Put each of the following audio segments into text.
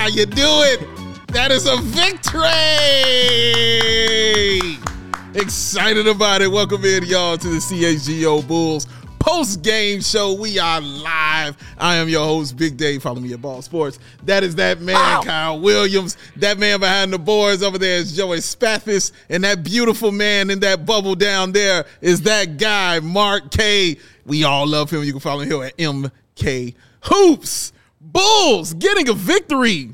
you do it. That is a victory. Excited about it. Welcome in, y'all, to the CHGO Bulls post-game show. We are live. I am your host, Big Dave. Follow me at Ball Sports. That is that man, Kyle Williams. That man behind the boards over there is Joey Spathis. And that beautiful man in that bubble down there is that guy, Mark K. We all love him. You can follow him here at MK Hoops. Bulls getting a victory,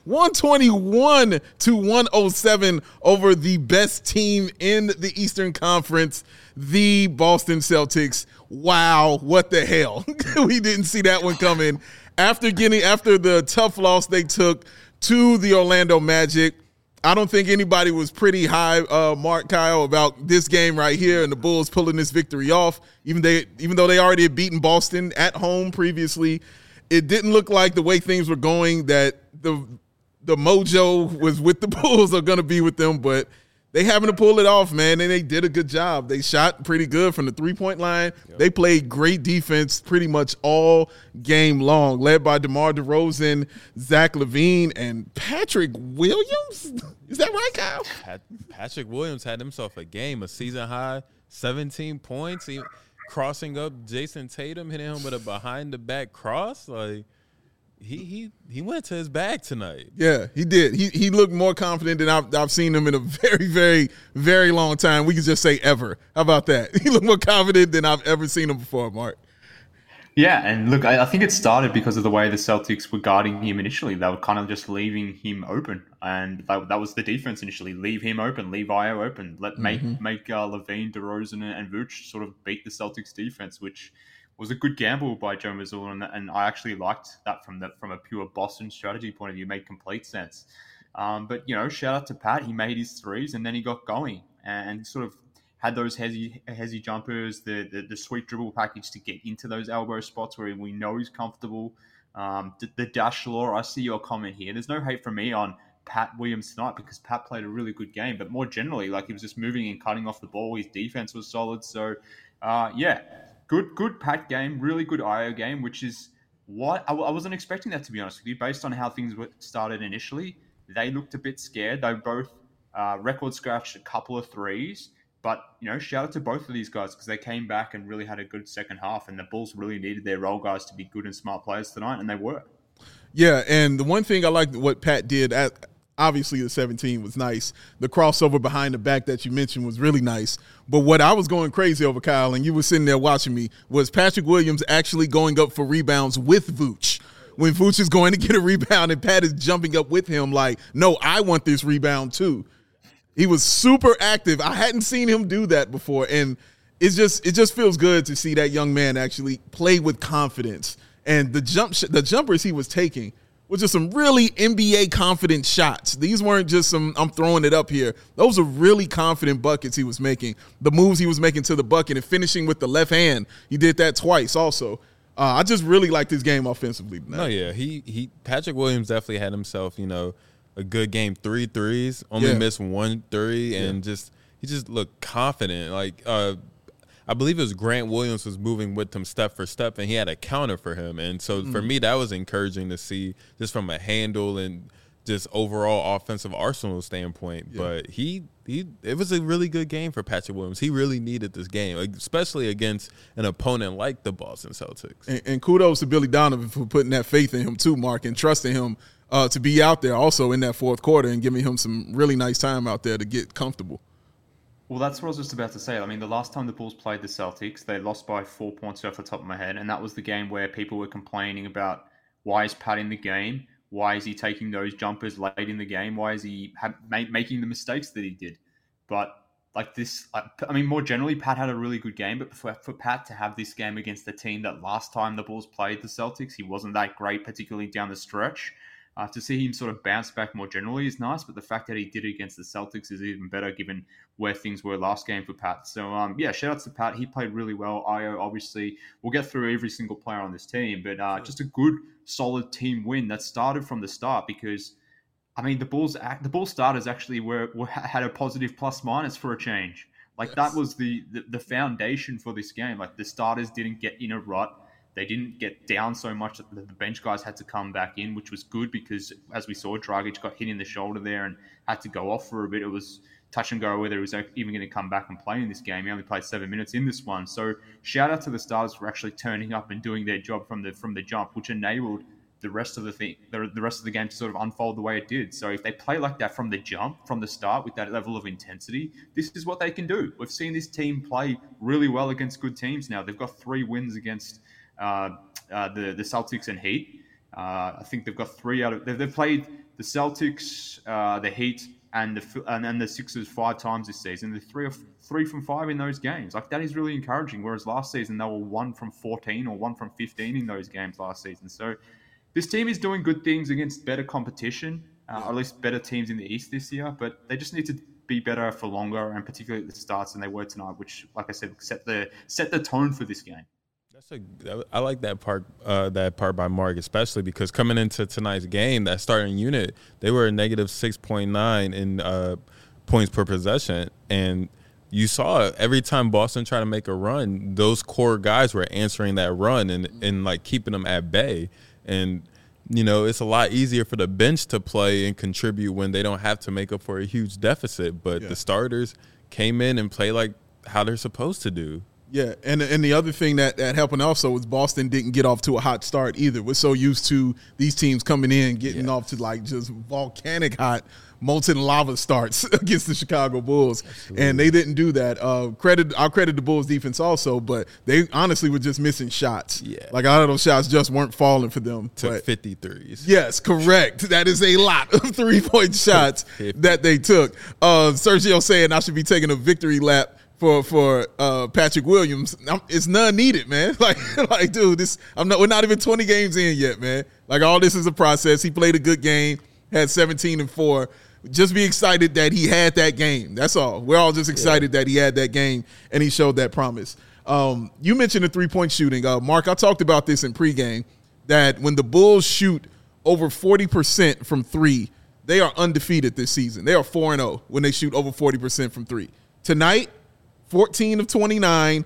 121-107 over the best team in the Eastern Conference, the Boston Celtics. Wow, what the hell? We didn't see that one coming. After the tough loss they took to the Orlando Magic, I don't think anybody was pretty high, Mark, Kyle, about this game right here and the Bulls pulling this victory off, even though they already had beaten Boston at home previously. It didn't look like the way things were going that the mojo was with the Bulls are going to be with them, but they having to pull it off, man, and they did a good job. They shot pretty good from the three-point line. Yep. They played great defense pretty much all game long, led by DeMar DeRozan, Zach LaVine, and Patrick Williams. Is that right, Kyle? Patrick Williams had himself a game, a season high, 17 points. Crossing up Jason Tatum, hitting him with a behind-the-back cross. Like, he went to his bag tonight. Yeah, he did. He looked more confident than I've seen him in a very, very, very long time. We could just say ever. How about that? He looked more confident than I've ever seen him before, Mark. Yeah, and look, I think it started because of the way the Celtics were guarding him initially. They were kind of just leaving him open, and that was the defense initially. Leave him open, leave Io open. Make LaVine, DeRozan, and Vooch sort of beat the Celtics defense, which was a good gamble by Joe Mazzulla, and I actually liked that from a pure Boston strategy point of view. It made complete sense. But shout out to Pat. He made his threes, and then he got going and sort of had those hezzy jumpers, the sweet dribble package to get into those elbow spots where we know he's comfortable. The dash law, I see your comment here. There's no hate from me on Pat Williams tonight because Pat played a really good game, but more generally, like, he was just moving and cutting off the ball. His defense was solid. So, good Pat game, really good Io game, which is what I wasn't expecting that, to be honest with you, based on how things started initially. They looked a bit scared. They both record scratched a couple of threes. But, shout out to both of these guys because they came back and really had a good second half, and the Bulls really needed their role guys to be good and smart players tonight, and they were. Yeah, and the one thing I liked what Pat did, obviously the 17 was nice. The crossover behind the back that you mentioned was really nice. But what I was going crazy over, Kyle, and you were sitting there watching me, was Patrick Williams actually going up for rebounds with Vooch. When Vooch is going to get a rebound and Pat is jumping up with him like, no, I want this rebound too. He was super active. I hadn't seen him do that before, and it just feels good to see that young man actually play with confidence. And the jumpers he was taking were just some really NBA confident shots. These weren't just some I'm throwing it up here. Those are really confident buckets he was making. The moves he was making to the bucket and finishing with the left hand. He did that twice also. I just really liked his game offensively. No, yeah, Patrick Williams definitely had himself, a good game, 3 threes, only missed 1 3, and he just looked confident. Like, I believe it was Grant Williams was moving with him step for step, and he had a counter for him. And so for me, that was encouraging to see just from a handle and just overall offensive arsenal standpoint. Yeah. But it was a really good game for Patrick Williams. He really needed this game, especially against an opponent like the Boston Celtics. And kudos to Billy Donovan for putting that faith in him too, Mark, and trusting him to be out there also in that fourth quarter and giving him some really nice time out there to get comfortable. Well, that's what I was just about to say. I mean, the last time the Bulls played the Celtics, they lost by 4 points off the top of my head, and that was the game where people were complaining about why is Pat in the game? Why is he taking those jumpers late in the game? Why is he making the mistakes that he did? But like this, I mean, more generally, Pat had a really good game, but for Pat to have this game against the team that last time the Bulls played the Celtics, he wasn't that great, particularly down the stretch. To see him sort of bounce back more generally is nice, but the fact that he did it against the Celtics is even better given where things were last game for Pat. So, shout outs to Pat. He played really well. Io, obviously, we'll get through every single player on this team, but just a good, solid team win that started from the start because, I mean, the Bulls starters actually had a positive plus-minus for a change. Like, that was the foundation for this game. Like, the starters didn't get in a rut. They didn't get down so much that the bench guys had to come back in, which was good because, as we saw, Dragic got hit in the shoulder there and had to go off for a bit. It was touch and go whether he was even going to come back and play in this game. He only played 7 minutes in this one. So shout out to the starters for actually turning up and doing their job from the jump, which enabled the rest of the game to sort of unfold the way it did. So if they play like that from the jump, from the start, with that level of intensity, this is what they can do. We've seen this team play really well against good teams now. They've got 3 wins against the Celtics and Heat. I think they've got 3 out of... They've played the Celtics, the Heat, and the Sixers 5 times this season. They're 3 from 5 in those games. Like, that is really encouraging. Whereas last season, they were 1 from 14 or 1 from 15 in those games last season. So this team is doing good things against better competition, or at least better teams in the East this year, but they just need to be better for longer, and particularly at the starts than they were tonight, which, like I said, set the tone for this game. I like that part by Mark, especially because coming into tonight's game, that starting unit, they were a negative 6.9 in points per possession, and you saw every time Boston tried to make a run, those core guys were answering that run and like keeping them at bay. And, you know, it's a lot easier for the bench to play and contribute when they don't have to make up for a huge deficit. But the starters came in and played like how they're supposed to do. Yeah, and the other thing that happened also was Boston didn't get off to a hot start either. We're so used to these teams coming in, getting off to like just volcanic hot, molten lava starts against the Chicago Bulls. Absolutely. And they didn't do that. I'll credit the Bulls defense also, but they honestly were just missing shots. Yeah. Like, a lot of those shots just weren't falling for them. Took 53s. Yes, correct. That is a lot of 3-point shots that they took. Sergio saying I should be taking a victory lap for Patrick Williams. It's none needed, man. Like, dude, we're not even 20 games in yet, man. Like, all this is a process. He played a good game, had 17 and 4. Just be excited that he had that game. That's all. We're all just excited that he had that game and he showed that promise. You mentioned the 3-point shooting. Mark, I talked about this in pregame, that when the Bulls shoot over 40% from 3, they are undefeated this season. They are 4-0 when they shoot over 40% from 3. Tonight, 14 of 29,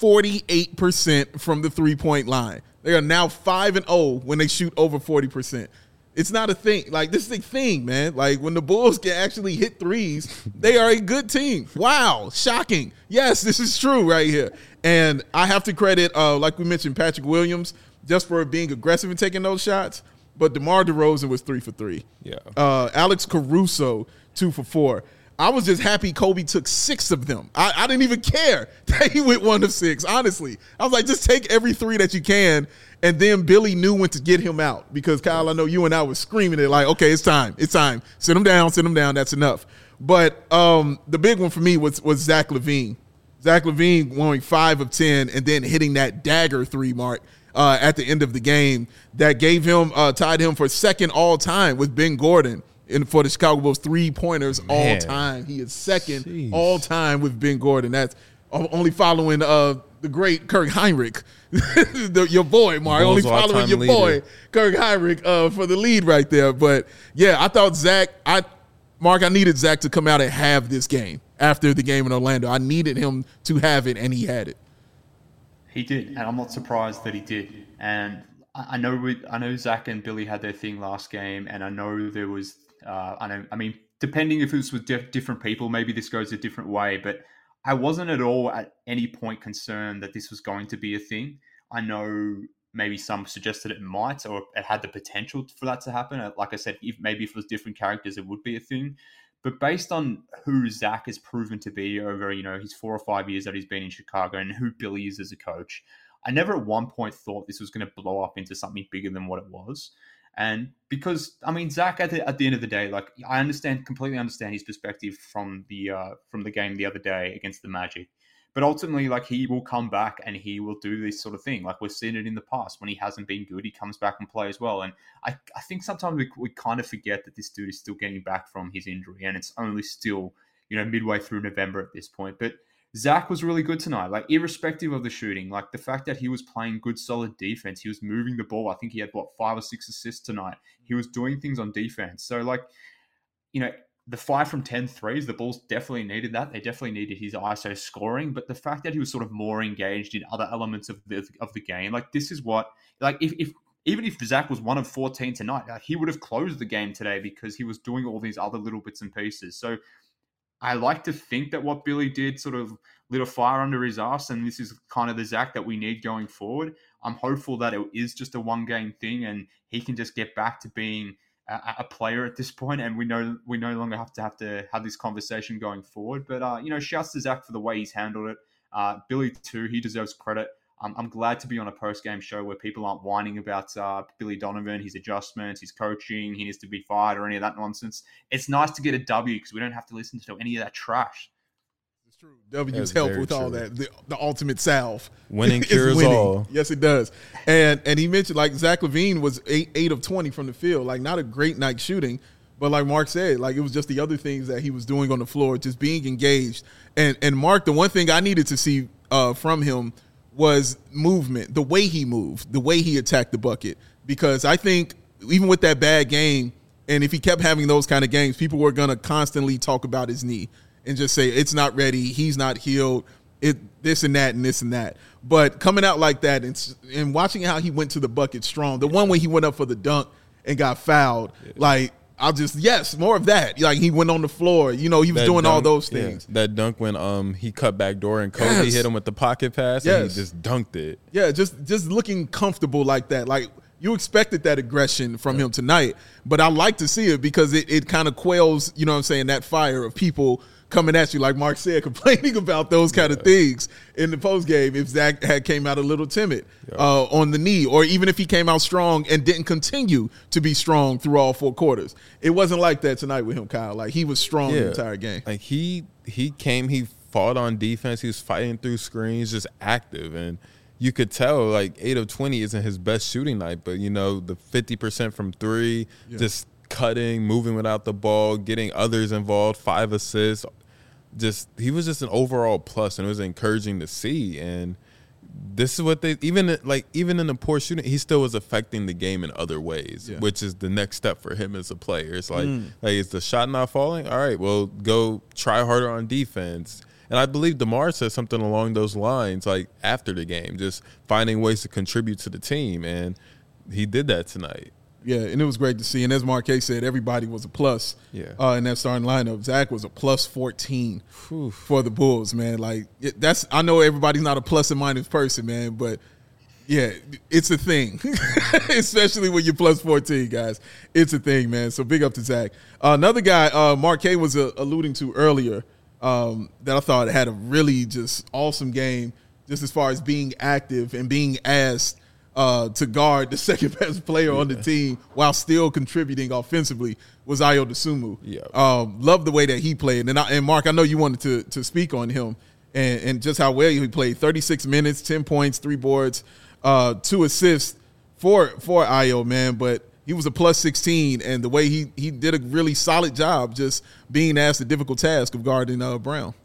48% from the 3-point line. They are now 5-0 when they shoot over 40%. It's not a thing. Like, this is a thing, man. Like, when the Bulls can actually hit threes, they are a good team. Wow. Shocking. Yes, this is true right here. And I have to credit, like we mentioned, Patrick Williams, just for being aggressive and taking those shots. But DeMar DeRozan was 3 for 3. Yeah. Alex Caruso, 2 for 4. I was just happy Kobe took 6 of them. I didn't even care that he went 1 of 6, honestly. I was like, just take every 3 that you can. And then Billy knew when to get him out, because, Kyle, I know you and I were screaming it like, okay, it's time. Sit him down, that's enough. But the big one for me was Zach LaVine. Zach LaVine going 5 of 10 and then hitting that dagger 3 mark at the end of the game that gave him, tied him for second all time with Ben Gordon. For the Chicago Bulls 3-pointers all time. He is second all time with Ben Gordon. That's only following the great Kirk Hinrich, your boy, Mark. Only following your boy, Kirk Hinrich, for the lead right there. But, yeah, I thought Mark, I needed Zach to come out and have this game after the game in Orlando. I needed him to have it, and he had it. He did, and I'm not surprised that he did. And I know Zach and Billy had their thing last game, and I know there was depending if it was with different people, maybe this goes a different way, but I wasn't at all at any point concerned that this was going to be a thing. I know maybe some suggested it might, or it had the potential for that to happen. Like I said, if it was different characters, it would be a thing. But based on who Zach has proven to be over, his 4 or 5 years that he's been in Chicago and who Billy is as a coach, I never at one point thought this was going to blow up into something bigger than what it was. And because, Zach, at the end of the day, like, I completely understand his perspective from the game the other day against the Magic. But ultimately, like, he will come back and he will do this sort of thing. Like, we've seen it in the past. When he hasn't been good, he comes back and plays well. And I think sometimes we kind of forget that this dude is still getting back from his injury. And it's only still, midway through November at this point. But Zach was really good tonight, like, irrespective of the shooting. Like, the fact that he was playing good, solid defense, he was moving the ball. I think he had, 5 or 6 assists tonight. He was doing things on defense. So, like, the 5 from 10 threes, the Bulls definitely needed that. They definitely needed his ISO scoring, but the fact that he was sort of more engaged in other elements of the game, like this is what, like if even if Zach was 1 of 14 tonight, he would have closed the game today because he was doing all these other little bits and pieces. So I like to think that what Billy did sort of lit a fire under his ass, and this is kind of the Zach that we need going forward. I'm hopeful that it is just a one-game thing, and he can just get back to being a player at this point, and we no longer have to have this conversation going forward. But shouts to Zach for the way he's handled it. Billy too, he deserves credit. I'm glad to be on a post-game show where people aren't whining about Billy Donovan, his adjustments, his coaching, he needs to be fired or any of that nonsense. It's nice to get a W because we don't have to listen to any of that trash. It's true. W's help with all that. The ultimate salve. Winning cures all. Yes, it does. And he mentioned, like, Zach LaVine was 8 of 20 from the field. Like, not a great night shooting, but like Mark said, like, it was just the other things that he was doing on the floor, just being engaged. And Mark, the one thing I needed to see from him was movement, the way he moved, the way he attacked the bucket. Because I think even with that bad game, and if he kept having those kind of games, people were going to constantly talk about his knee and just say, it's not ready, he's not healed, this and that and this and that. But coming out like that and watching how he went to the bucket strong, the one way he went up for the dunk and got fouled, like, more of that. Like, he went on the floor. He was doing dunk, all those things. Yeah, that dunk when he cut back door and Kobe hit him with the pocket pass and he just dunked it. Yeah, just looking comfortable like that. Like, you expected that aggression from him tonight, but I like to see it because it kind of quells, that fire of people coming at you, like Mark said, complaining about those kind of things in the post game. If Zach had came out a little timid on the knee, or even if he came out strong and didn't continue to be strong through all 4 quarters, it wasn't like that tonight with him, Kyle. Like, he was strong the entire game. Like he came, he fought on defense, he was fighting through screens, just active, and you could tell like 8 of 20 isn't his best shooting night, but the 50% from 3, just cutting, moving without the ball, getting others involved, 5 assists. He was just an overall plus, and it was encouraging to see. And this is what they even in the poor shooting, he still was affecting the game in other ways, which is the next step for him as a player. It's like is the shot not falling? All right, well, go try harder on defense. And I believe DeMar said something along those lines, like after the game, just finding ways to contribute to the team, and he did that tonight. Yeah, and it was great to see. And as Marquez said, everybody was a plus in that starting lineup. Zach was a plus 14 for the Bulls, man. Like, I know everybody's not a plus and minus person, man, but yeah, it's a thing, especially when you're plus 14, guys. It's a thing, man. So big up to Zach. Another guy, Marquez was alluding to earlier, that I thought had a really just awesome game, just as far as being active and being asked to guard the second best player on the team while still contributing offensively, was Ayo Dosunmu. Love the way that he played. And Mark, I know you wanted to speak on him and just how well he played. 36 minutes, 10 points, 3 boards, 2 assists for Ayo, man. But he was a plus 16, and the way he did a really solid job just being asked the difficult task of guarding Brown.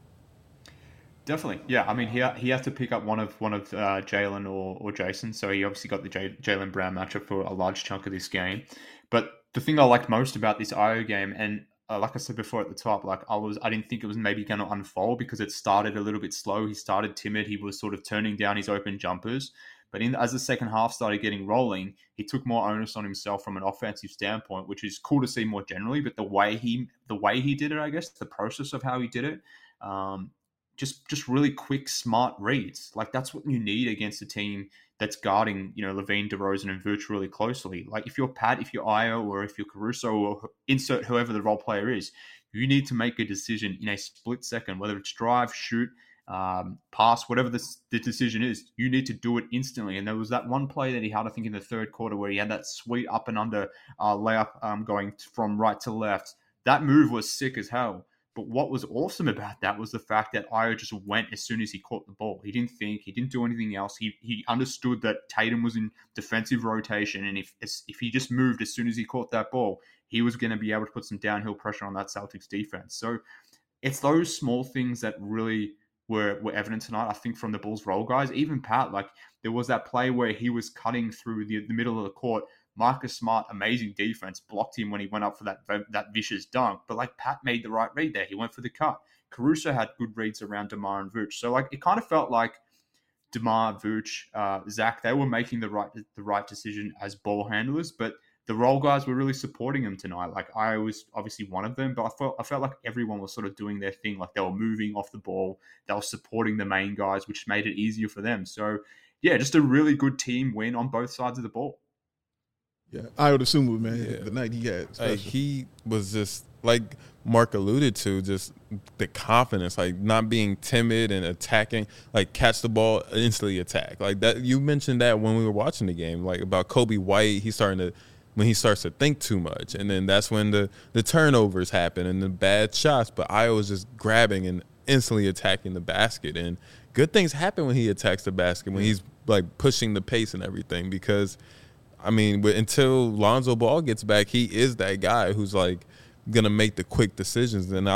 Definitely, yeah. I mean, he had to pick up one of Jaylen or Jason, so he obviously got the Jaylen Brown matchup for a large chunk of this game. But the thing I liked most about this Ayo game, and like I said before at the top, like I didn't think it was maybe going to unfold because it started a little bit slow. He started timid. He was sort of turning down his open jumpers. But as the second half started getting rolling, he took more onus on himself from an offensive standpoint, which is cool to see more generally. But the way he did it, I guess, the process of how he did it. Just really quick, smart reads. Like, that's what you need against a team that's guarding, LaVine, DeRozan, and Vooch really closely. Like, if you're Pat, if you're Ayo, or if you're Caruso, or insert whoever the role player is, you need to make a decision in a split second, whether it's drive, shoot, pass, whatever the decision is. You need to do it instantly. And there was that one play that he had, I think, in the third quarter where he had that sweet up and under layup going from right to left. That move was sick as hell. But what was awesome about that was the fact that Ayo just went as soon as he caught the ball. He didn't think, he didn't do anything else. He understood that Tatum was in defensive rotation, and if he just moved as soon as he caught that ball, he was going to be able to put some downhill pressure on that Celtics defense. So it's those small things that really were evident tonight, I think, from the Bulls role guys. Even Pat, like, there was that play where he was cutting through the middle of the court Marcus Smart, amazing defense, blocked him when he went up for that vicious dunk. But like Pat made the right read there. He went for the cut. Caruso had good reads around DeMar and Vooch. So like it kind of felt like DeMar, Vooch, Zach, they were making the right decision as ball handlers, but the role guys were really supporting him tonight. Like I was obviously one of them, but I felt like everyone was sort of doing their thing. Like they were moving off the ball, they were supporting the main guys, which made it easier for them. So yeah, just a really good team win on both sides of the ball. Yeah, Ayo Dosunmu, man, the night he had. He was just like Mark alluded to, just the confidence, like not being timid and attacking, like catch the ball, instantly attack. Like that, you mentioned that when we were watching the game, like about Kobe White, when he starts to think too much, and then that's when the turnovers happen and the bad shots. But Ayo was just grabbing and instantly attacking the basket, and good things happen when he attacks the basket, when he's like pushing the pace and everything. Because I mean, until Lonzo Ball gets back, he is that guy who's like gonna make the quick decisions. And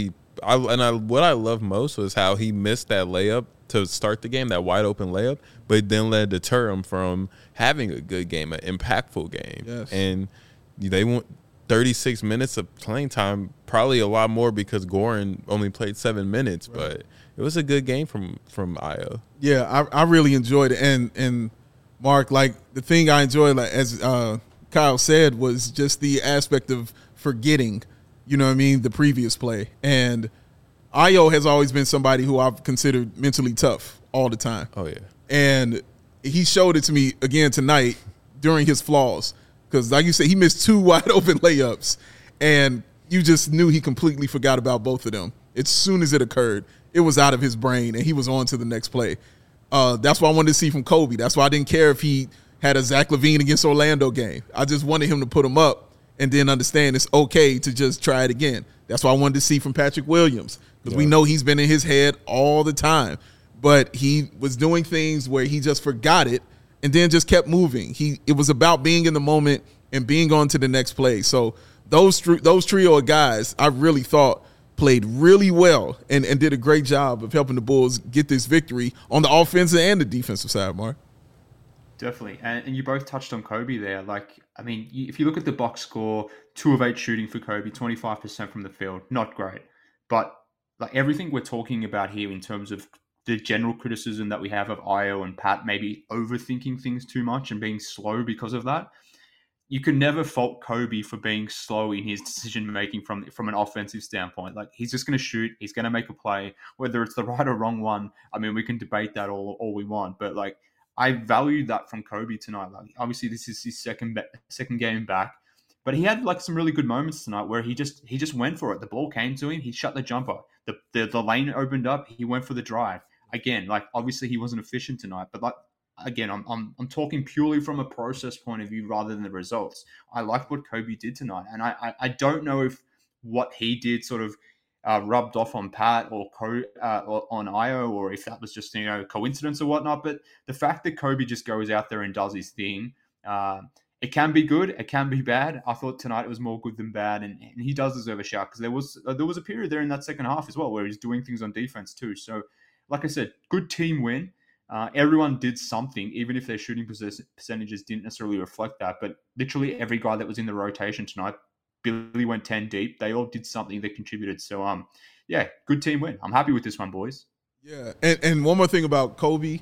what I love most was how he missed that layup to start the game, that wide open layup, but it then led to deter him from having a good game, an impactful game. Yes. And they went 36 minutes of playing time, probably a lot more because Goran only played 7 minutes, right. But it was a good game from Ayo. Yeah, I really enjoyed it. And Mark, like the thing I enjoyed, like as Kyle said, was just the aspect of forgetting, you know what I mean, the previous play. And Ayo has always been somebody who I've considered mentally tough all the time. Oh, yeah. And he showed it to me again tonight during his flaws. Because like you said, he missed 2 wide open layups. And you just knew he completely forgot about both of them. As soon as it occurred, it was out of his brain and he was on to the next play. That's what I wanted to see from Kobe. That's why I didn't care if he had a Zach LaVine against Orlando game. I just wanted him to put him up and then understand it's okay to just try it again. That's what I wanted to see from Patrick Williams, because we know he's been in his head all the time. But he was doing things where he just forgot it and then just kept moving. It was about being in the moment and being on to the next play. So those trio of guys, I really thought played really well and did a great job of helping the Bulls get this victory on the offensive and the defensive side, Mark. Definitely. And you both touched on Kobe there. Like, I mean, if you look at the box score, 2 of 8 shooting for Kobe, 25% from the field, not great. But like everything we're talking about here in terms of the general criticism that we have of Ayo and Pat maybe overthinking things too much and being slow because of that, you can never fault Kobe for being slow in his decision-making from an offensive standpoint. Like, he's just going to shoot. He's going to make a play. Whether it's the right or wrong one, I mean, we can debate that all we want. But, like, I valued that from Kobe tonight. Like, obviously, this is his second game back. But he had, like, some really good moments tonight where he just went for it. The ball came to him. He shut the jumper. The lane opened up. He went for the drive. Again, like, obviously, he wasn't efficient tonight. But, like, again, I'm talking purely from a process point of view rather than the results. I like what Kobe did tonight, and I don't know if what he did sort of rubbed off on Pat or on Ayo, or if that was just coincidence or whatnot. But the fact that Kobe just goes out there and does his thing, it can be good, it can be bad. I thought tonight it was more good than bad, and he does deserve a shout because there was a period there in that second half as well where he's doing things on defense too. So, like I said, good team win. Everyone did something, even if their shooting percentages didn't necessarily reflect that. But literally every guy that was in the rotation tonight, Billy went 10 deep. They all did something that contributed. So, yeah, good team win. I'm happy with this one, boys. Yeah, and one more thing about Kobe.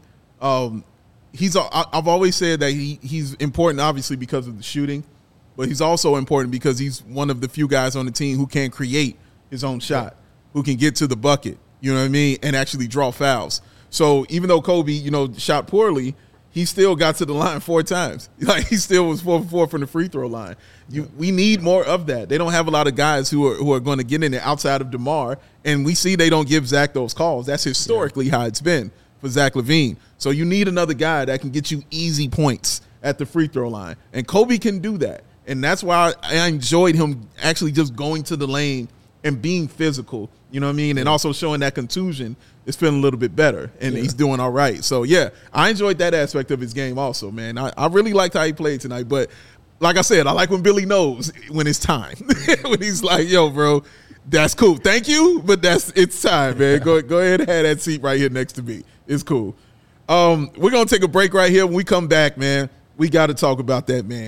I've always said that he's important, obviously, because of the shooting, but he's also important because he's one of the few guys on the team who can create his own shot, who can get to the bucket, you know what I mean, and actually draw fouls. So even though Kobe, shot poorly, he still got to the line 4 times. Like, he still was 4 for 4 from the free throw line. We need more of that. They don't have a lot of guys who are going to get in there outside of DeMar, and we see they don't give Zach those calls. That's historically how it's been for Zach LaVine. So you need another guy that can get you easy points at the free throw line, and Kobe can do that. And that's why I enjoyed him actually just going to the lane and being physical, you know what I mean, and also showing that contusion is feeling a little bit better, and he's doing all right. So, yeah, I enjoyed that aspect of his game also, man. I really liked how he played tonight. But like I said, I like when Billy knows when it's time. When he's like, yo, bro, that's cool. Thank you, but it's time, man. Go ahead and have that seat right here next to me. It's cool. We're going to take a break right here. When we come back, man, we got to talk about that, man.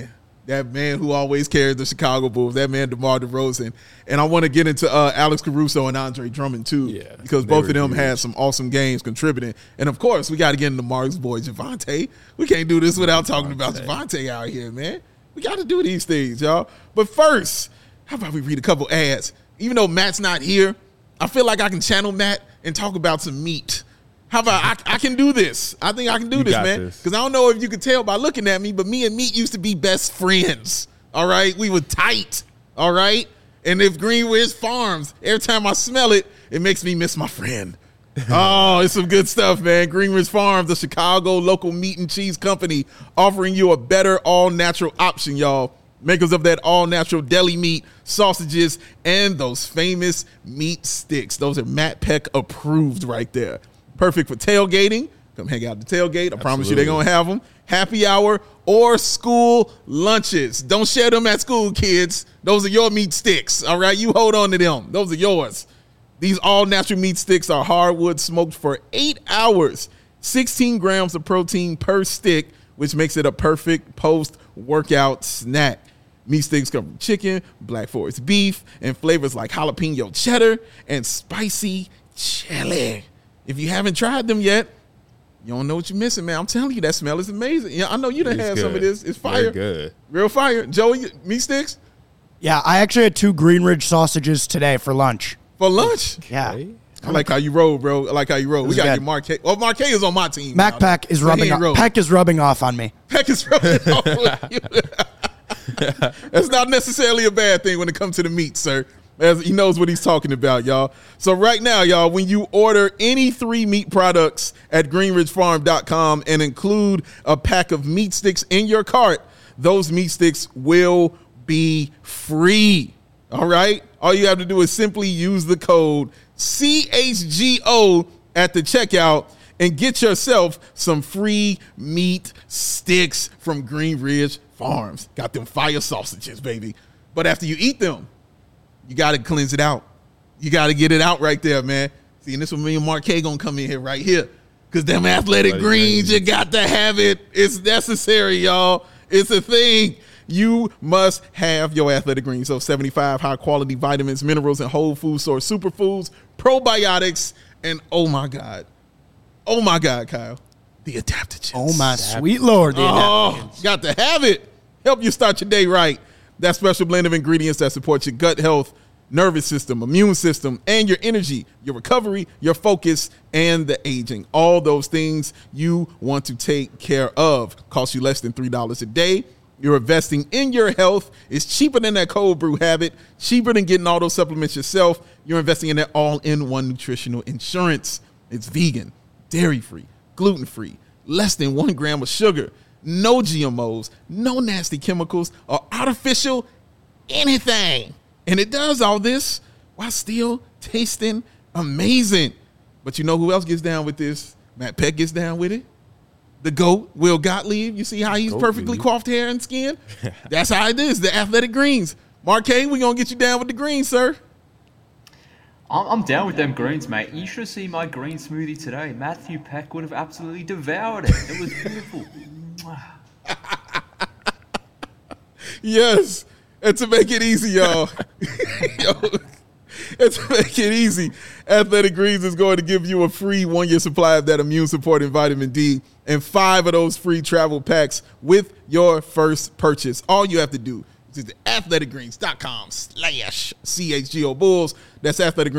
That man who always carries the Chicago Bulls, that man DeMar DeRozan. And I want to get into Alex Caruso and Andre Drummond too, because both of them had some awesome games contributing. And of course, we got to get into Mark's boy Javonte. We can't do this without talking about Javonte out here, man. We got to do these things, y'all. But first, how about we read a couple ads? Even though Matt's not here, I feel like I can channel Matt and talk about some meat. How about I can do this? I think I can do this, man. Because I don't know if you can tell by looking at me, but me and meat used to be best friends. All right? We were tight. All right? And if Greenridge Farms, every time I smell it, it makes me miss my friend. Oh, it's some good stuff, man. Greenridge Farms, the Chicago local meat and cheese company, offering you a better all-natural option, y'all. Makers of that all-natural deli meat, sausages, and those famous meat sticks. Those are Matt Peck approved right there. Perfect for tailgating. Come hang out at the tailgate. I promise you they're going to have them. Happy hour or school lunches. Don't share them at school, kids. Those are your meat sticks, all right? You hold on to them. Those are yours. These all-natural meat sticks are hardwood smoked for 8 hours. 16 grams of protein per stick, which makes it a perfect post-workout snack. Meat sticks come from chicken, Black Forest beef, and flavors like jalapeno cheddar and spicy chili. If you haven't tried them yet, you don't know what you're missing, man. I'm telling you, that smell is amazing. Yeah, I know you done had some of this. It's fire. Very good. Real fire. Joey, meat sticks? Yeah, I actually had 2 Greenridge sausages today for lunch. For lunch? Yeah. I like how you roll, bro. I like how you roll. We got to get Marquez. Oh, Marquez is on my team. Mac Peck is rubbing off. Peck is rubbing off on me. Peck is rubbing off on you. That's not necessarily a bad thing when it comes to the meat, sir. As he knows what he's talking about, y'all. So right now, y'all, when you order any 3 meat products at greenridgefarm.com and include a pack of meat sticks in your cart, those meat sticks will be free. All right? All you have to do is simply use the code CHGO at the checkout and get yourself some free meat sticks from Greenridge Farms. Got them fire sausages, baby. But after you eat them, you got to cleanse it out. You got to get it out right there, man. See, and this is when me and Marquez going to come in here right here. Because them athletic greens, you got to have it. It's necessary, y'all. It's a thing. You must have your athletic greens. So 75 high-quality vitamins, minerals, and whole food source superfoods, probiotics, and oh, my God, Kyle, the adaptogens. Oh, my sweet Lord. Got to have it. Help you start your day right. That special blend of ingredients that support your gut health, nervous system, immune system, and your energy, your recovery, your focus, and the aging. All those things you want to take care of. Cost you less than $3 a day. You're investing in your health. It's cheaper than that cold brew habit, cheaper than getting all those supplements yourself. You're investing in that all-in-one nutritional insurance. It's vegan, dairy-free, gluten-free, less than 1 gram of sugar, no GMOs, no nasty chemicals, or artificial anything. And it does all this while still tasting amazing. But you know who else gets down with this? Matt Peck gets down with it. The GOAT, Will Gottlieb. You see how he's perfectly coiffed hair and skin? That's how it is, the athletic greens. Marquez, we're going to get you down with the greens, sir. I'm down with them greens, mate. You should see my green smoothie today. Matthew Peck would have absolutely devoured it. It was beautiful. Yes. And to make it easy, y'all. And to make it easy, Athletic Greens is going to give you a free 1-year supply of that immune-supporting vitamin D and 5 of those free travel packs with your first purchase. All you have to do is visit athleticgreens.com/CHGO Bulls. That's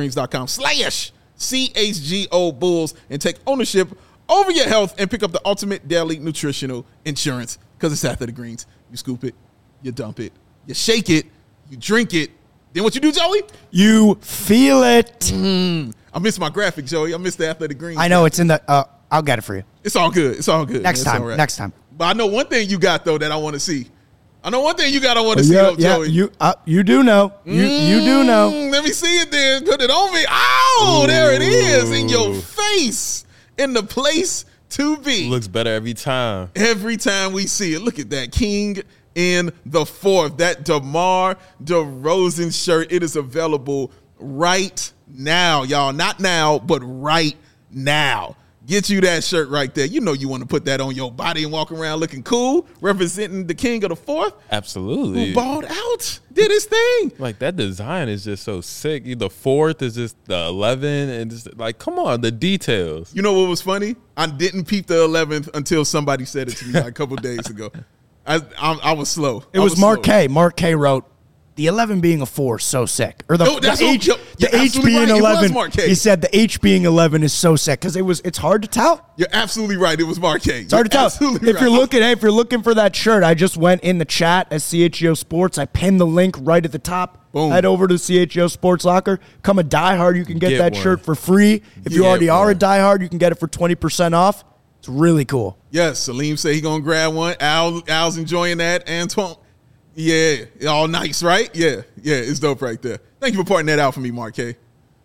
athleticgreens.com/CHGO Bulls and take ownership over your health and pick up the ultimate daily nutritional insurance because it's Athletic Greens. You scoop it, you dump it, you shake it, you drink it. Then what you do, Joey? You feel it. I missed my graphic, Joey. I missed the Athletic Greens. I know it's in the. I'll get it for you. It's all good. It's all good. Next time. All right. Next time. But I know one thing you got though that I want to see. I know one thing you got. I want to see, though, Joey. You do know. You do know. Let me see it then. Put it on me. Oh, there it is in your face, in the place to be. Looks better every time. Every time we see it. Look at that, King in the fourth. That DeMar DeRozan shirt. It is available right now, y'all. Not now, but right now. Get you that shirt right there. You know you want to put that on your body and walk around looking cool, representing the king of the fourth. Absolutely. Who balled out, did his thing. Like, that design is just so sick. The fourth is just the 11, and just like, come on, the details. You know what was funny? I didn't peep the 11th until somebody said it to me like a couple days ago. I was slow. It was Mark K. Mark K. wrote, the 11 being a 4 is so sick. Or the H being 11. He said the H being 11 is so sick because it's hard to tell. You're absolutely right. It was Mark K. It's hard to tell. If you're looking for that shirt, I just went in the chat at CHGO Sports. I pinned the link right at the top. Boom. Head over to CHGO Sports Locker. Come a diehard, you can get that shirt for free. If you already are a diehard, you can get it for 20% off. It's really cool. Yes, Salim said he gonna grab one. Al's enjoying that. Antoine. Yeah, all nice, right? Yeah, it's dope right there. Thank you for pointing that out for me, Mark K.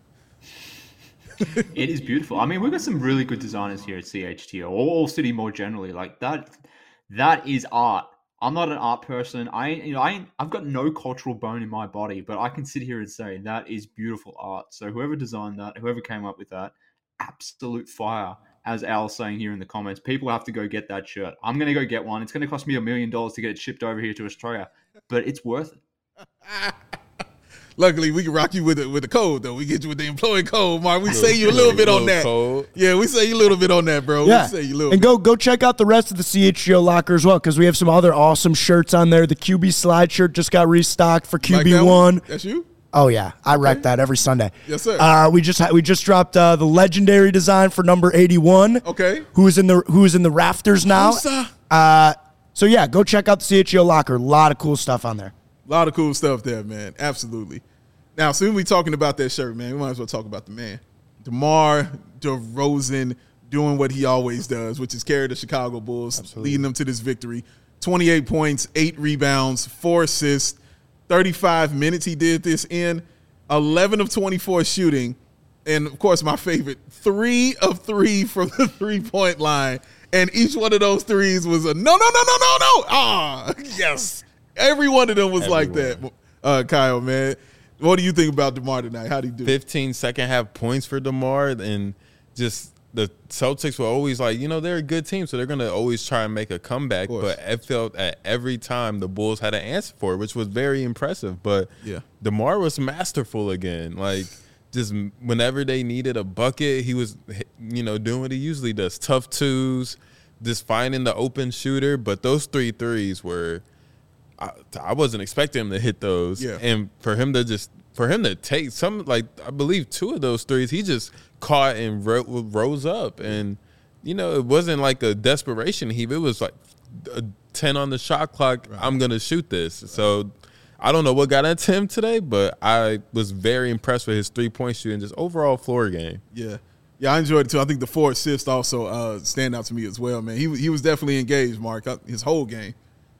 It is beautiful. I mean, we've got some really good designers here at CHTO, or All City more generally. Like that is art. I'm not an art person. I've got no cultural bone in my body, but I can sit here and say that is beautiful art. So whoever designed that, whoever came up with that, absolute fire. As Al's saying here in the comments, people have to go get that shirt. I'm going to go get one. It's going to cost me $1 million to get it shipped over here to Australia, but it's worth it. Luckily, we can rock you with the code, though. We get you with the employee code, Mark. We say you a little bit on that. Code. Yeah, we say you a little bit on that, bro. Yeah. We say you a little and bit. go check out the rest of the CHGO locker as well because we have some other awesome shirts on there. The QB slide shirt just got restocked for QB1. Like that's you? Oh, yeah. I wreck that every Sunday. Yes, sir. We just dropped the legendary design for number 81. Okay. Who is in the rafters now. So, yeah, go check out the CHGO locker. A lot of cool stuff on there. A lot of cool stuff there, man. Absolutely. Now, soon we talking about that shirt, man. We might as well talk about the man. DeMar DeRozan doing what he always does, which is carry the Chicago Bulls, leading them to this victory. 28 points, 8 rebounds, 4 assists. 35 minutes he did this in, 11 of 24 shooting, and, of course, my favorite, 3 of 3 from the three-point line, and each one of those threes was a no. Ah, yes. Every one of them was like that, Kyle, man. What do you think about DeMar tonight? How did he do? 15 second-half points for DeMar, and just the Celtics were always like, they're a good team, so they're going to always try and make a comeback. But it felt at every time the Bulls had an answer for it, which was very impressive. But DeMar was masterful again. Like, just whenever they needed a bucket, he was, doing what he usually does. Tough twos, just finding the open shooter. But those 3 threes were I wasn't expecting him to hit those. Yeah. And for him to take some, like, I believe 2 of those threes, he just caught and rose up. And, it wasn't like a desperation heave. It was like a 10 on the shot clock. Right. I'm going to shoot this. Right. So I don't know what got into him today, but I was very impressed with his 3-point shooting, just overall floor game. Yeah. Yeah, I enjoyed it too. I think the 4 assists also stand out to me as well, man. He was definitely engaged, Mark, his whole game.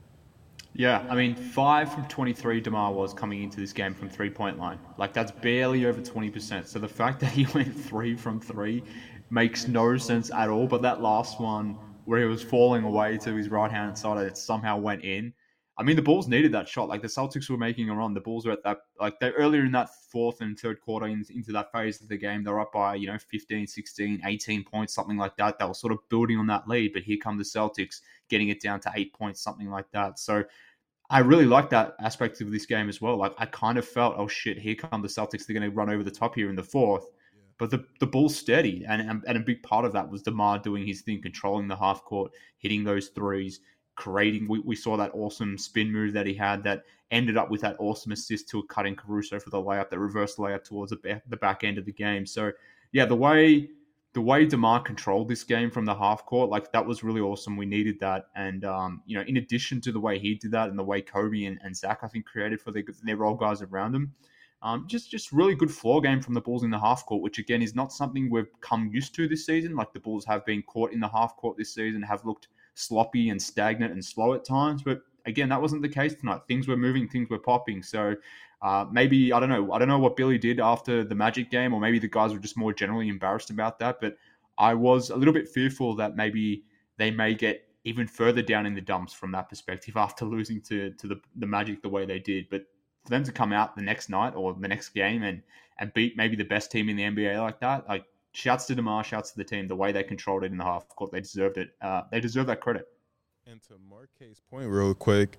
Yeah, I mean, 5 from 23 DeMar was coming into this game from three-point line. Like, that's barely over 20%. So the fact that he went 3 from 3 makes no sense at all. But that last one where he was falling away to his right-hand side and it somehow went in. I mean, the Bulls needed that shot. Like, the Celtics were making a run. The Bulls were at that, like, they earlier in that fourth and third quarter into that phase of the game, they were up by, 15, 16, 18 points, something like that. They were sort of building on that lead. But here come the Celtics getting it down to 8 points, something like that. So I really like that aspect of this game as well. Like, I kind of felt, oh shit, here come the Celtics. They're going to run over the top here in the fourth. Yeah. But the Bulls steady. And a big part of that was DeMar doing his thing, controlling the half court, hitting those threes, creating. We saw that awesome spin move that he had that ended up with that awesome assist to a cutting Caruso for the layup, the reverse layup towards the back end of the game. So, yeah, the way DeMar controlled this game from the half court, like, that was really awesome. We needed that. And, in addition to the way he did that and the way Kobe and Zach, I think, created for their role guys around them, just really good floor game from the Bulls in the half court, which, again, is not something we've come used to this season. Like, the Bulls have been caught in the half court this season, have looked sloppy and stagnant and slow at times. But, again, that wasn't the case tonight. Things were moving, things were popping. So, maybe, I don't know what Billy did after the Magic game, or maybe the guys were just more generally embarrassed about that. But I was a little bit fearful that maybe they may get even further down in the dumps from that perspective after losing to the Magic the way they did. But for them to come out the next night or the next game and beat maybe the best team in the NBA like that, like, shouts to DeMar, shouts to the team. The way they controlled it in the half court, they deserved it. They deserve that credit. And to Marquet's point real quick,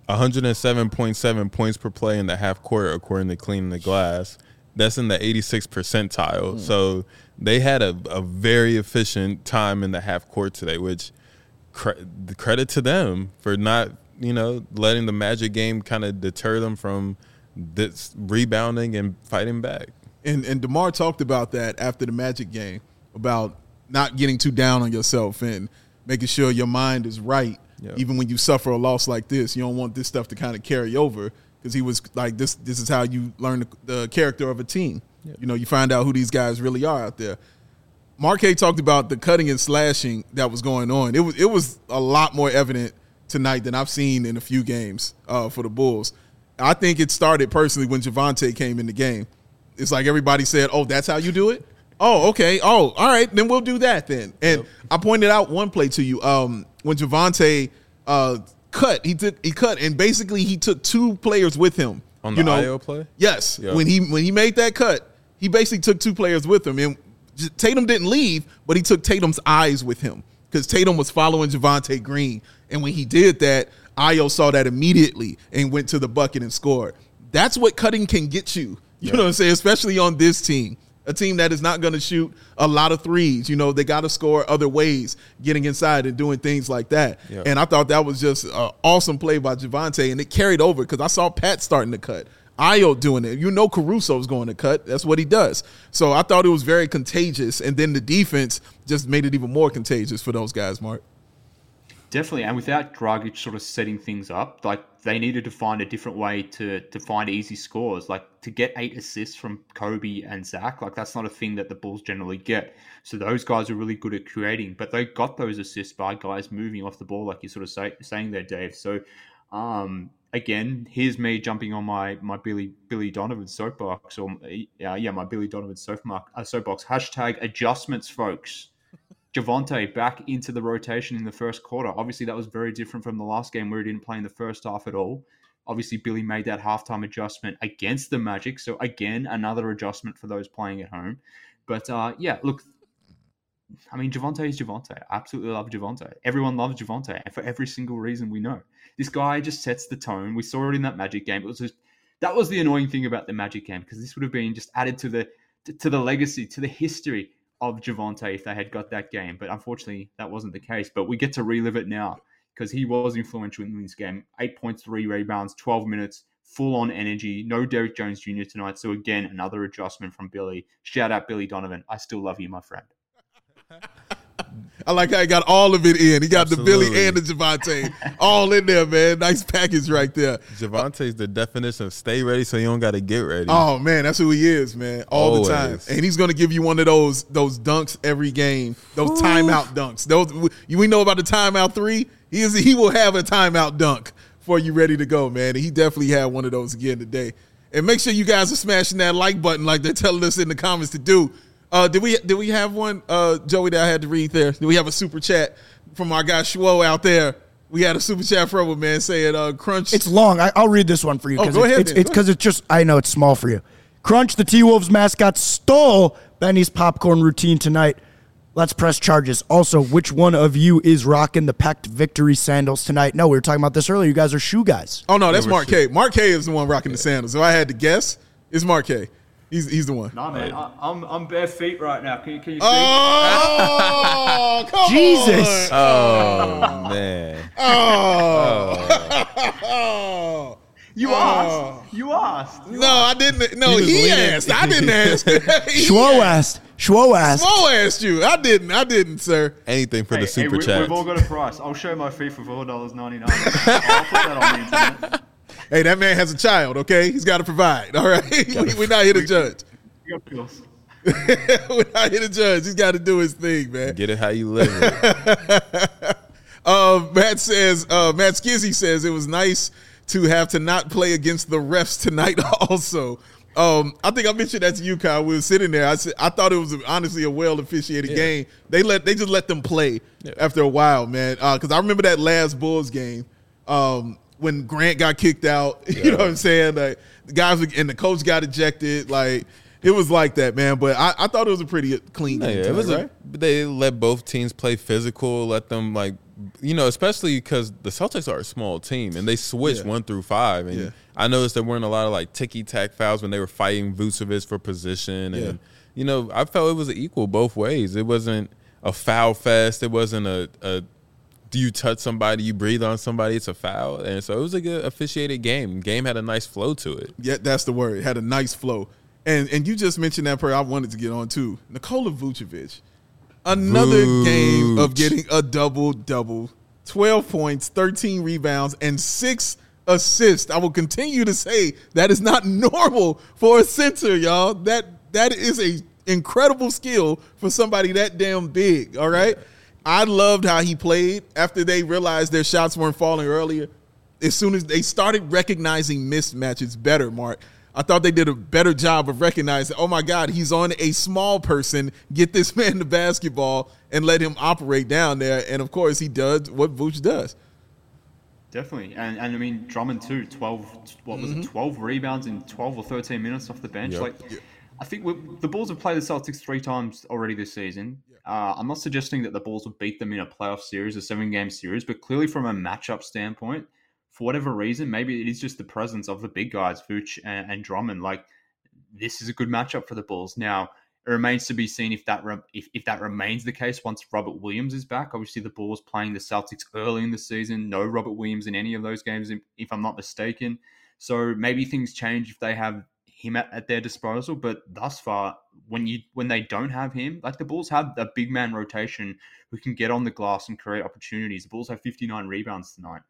107.7 points per play in the half court, according to Cleaning the Glass. That's in the 86th percentile. So they had a very efficient time in the half court today, which credit to them for not, letting the Magic game kind of deter them from this rebounding and fighting back. And DeMar talked about that after the Magic game, about not getting too down on yourself and making sure your mind is right. Yep. Even when you suffer a loss like this, you don't want this stuff to kind of carry over, because he was like, this is how you learn the character of a team. Yep. You find out who these guys really are out there. Marquet talked about the cutting and slashing that was going on. It was a lot more evident tonight than I've seen in a few games for the Bulls. I think it started personally when Javonte came in the game. It's like everybody said, oh, that's how you do it? Oh, okay. Oh, all right. Then we'll do that then. And I pointed out one play to you. When Javonte cut, he cut, and basically he took two players with him. On the IO play? Yes. Yep. When he made that cut, he basically took two players with him. And Tatum didn't leave, but he took Tatum's eyes with him, because Tatum was following Javonte Green. And when he did that, Ayo saw that immediately and went to the bucket and scored. That's what cutting can get you. You know what I'm saying? Especially on this team. A team that is not going to shoot a lot of threes. They got to score other ways, getting inside and doing things like that. Yep. And I thought that was just an awesome play by Javonte, and it carried over because I saw Pat starting to cut. Ayo doing it. Caruso's going to cut. That's what he does. So I thought it was very contagious, and then the defense just made it even more contagious for those guys, Mark. Definitely, and without Dragic sort of setting things up, like they needed to find a different way to find easy scores. Like to get 8 assists from Kobe and Zach, like that's not a thing that the Bulls generally get. So those guys are really good at creating, but they got those assists by guys moving off the ball, like you sort of saying there, Dave. So again, here's me jumping on my Billy Donovan soapbox, or my Billy Donovan soapbox. Hashtag adjustments, folks. Javonte back into the rotation in the first quarter. Obviously, that was very different from the last game where he didn't play in the first half at all. Obviously, Billy made that halftime adjustment against the Magic. So, again, another adjustment for those playing at home. But, look, I mean, Javonte is Javonte. I absolutely love Javonte. Everyone loves Javonte, and for every single reason we know. This guy just sets the tone. We saw it in that Magic game. That was the annoying thing about the Magic game, because this would have been just added to the legacy, to the history of Javonte if they had got that game. But unfortunately, that wasn't the case. But we get to relive it now, because he was influential in this game. 8 points, 3 rebounds, 12 minutes, full-on energy. No Derrick Jones Jr. tonight. So again, another adjustment from Billy. Shout out Billy Donovan. I still love you, my friend. I like how he got all of it in. He got Absolutely. The Billy and the Javonte all in there, man. Nice package right there. Javonte's the definition of stay ready so you don't got to get ready. Oh, man, that's who he is, man, all the time. And he's going to give you one of those dunks every game, those timeout dunks. We know about the timeout 3. He will have a timeout dunk for you ready to go, man. And he definitely had one of those again today. And make sure you guys are smashing that like button like they're telling us in the comments to do. Did we have one, Joey, that I had to read there? Did we have a super chat from our guy Schwo out there? We had a super chat from him, man, saying Crunch. It's long. I'll read this one for you. Go ahead. It's because it's just, I know it's small for you. Crunch, the T-Wolves mascot, stole Benny's popcorn routine tonight. Let's press charges. Also, which one of you is rocking the Pact Victory sandals tonight? No, we were talking about this earlier. You guys are shoe guys. Oh, no, that's Mark K. Mark K is the one rocking the sandals. So I had to guess. It's Mark K. He's the one. Nah, man, I'm bare feet right now. Can you see? Oh, come Jesus! On. Oh man! Oh. You asked. No, I didn't. No, he asked. I didn't ask. Schwo asked. Schwo asked you. I didn't, sir. Anything for the super chat. We've all got a price. I'll show my feet for $4.99. I'll put that on the internet. Hey, that man has a child, okay? He's got to provide, all right? We're not here to judge. We got bills. We're not here to judge. He's got to do his thing, man. Get it how you live it. Matt Skizzy says it was nice to have to not play against the refs tonight also. I think I mentioned that to you, Kyle. We were sitting there. I thought it was honestly a well-officiated game. They just let them play after a while, man. Because I remember that last Bulls game. When Grant got kicked out, you know what I'm saying? Like, the guys and the coach got ejected. Like, It was like that, man. But I thought it was a pretty clean game. It was right? They let both teams play physical, let them especially because the Celtics are a small team and they switched 1 through 5. And I noticed there weren't a lot of ticky-tack fouls when they were fighting Vucevic for position. And, I felt it was equal both ways. It wasn't a foul fest. It wasn't a do you touch somebody, you breathe on somebody, it's a foul. And so it was a good officiated game. Game had a nice flow to it. Yeah, that's the word. It had a nice flow. And you just mentioned that player I wanted to get on too. Nikola Vucevic. Another game of getting a double-double. 12 points, 13 rebounds, and 6 assists. I will continue to say that is not normal for a center, y'all. That is a incredible skill for somebody that damn big, all right? I loved how he played after they realized their shots weren't falling earlier. As soon as they started recognizing mismatches better, Mark, I thought they did a better job of recognizing, oh, my God, he's on a small person. Get this man the basketball and let him operate down there. And, of course, he does what Vooch does. Definitely. And I mean, Drummond, too, 12 rebounds in 12 or 13 minutes off the bench. I think the Bulls have played the Celtics 3 times already this season. I'm not suggesting that the Bulls will beat them in a playoff series, a 7-game series, but clearly from a matchup standpoint, for whatever reason, maybe it is just the presence of the big guys, Vooch and Drummond. This is a good matchup for the Bulls. Now, it remains to be seen if that remains the case once Robert Williams is back. Obviously, the Bulls playing the Celtics early in the season. No Robert Williams in any of those games, if I'm not mistaken. So maybe things change if they have him at their disposal. But thus far, when they don't have him, the Bulls have a big man rotation who can get on the glass and create opportunities. The Bulls have 59 rebounds tonight.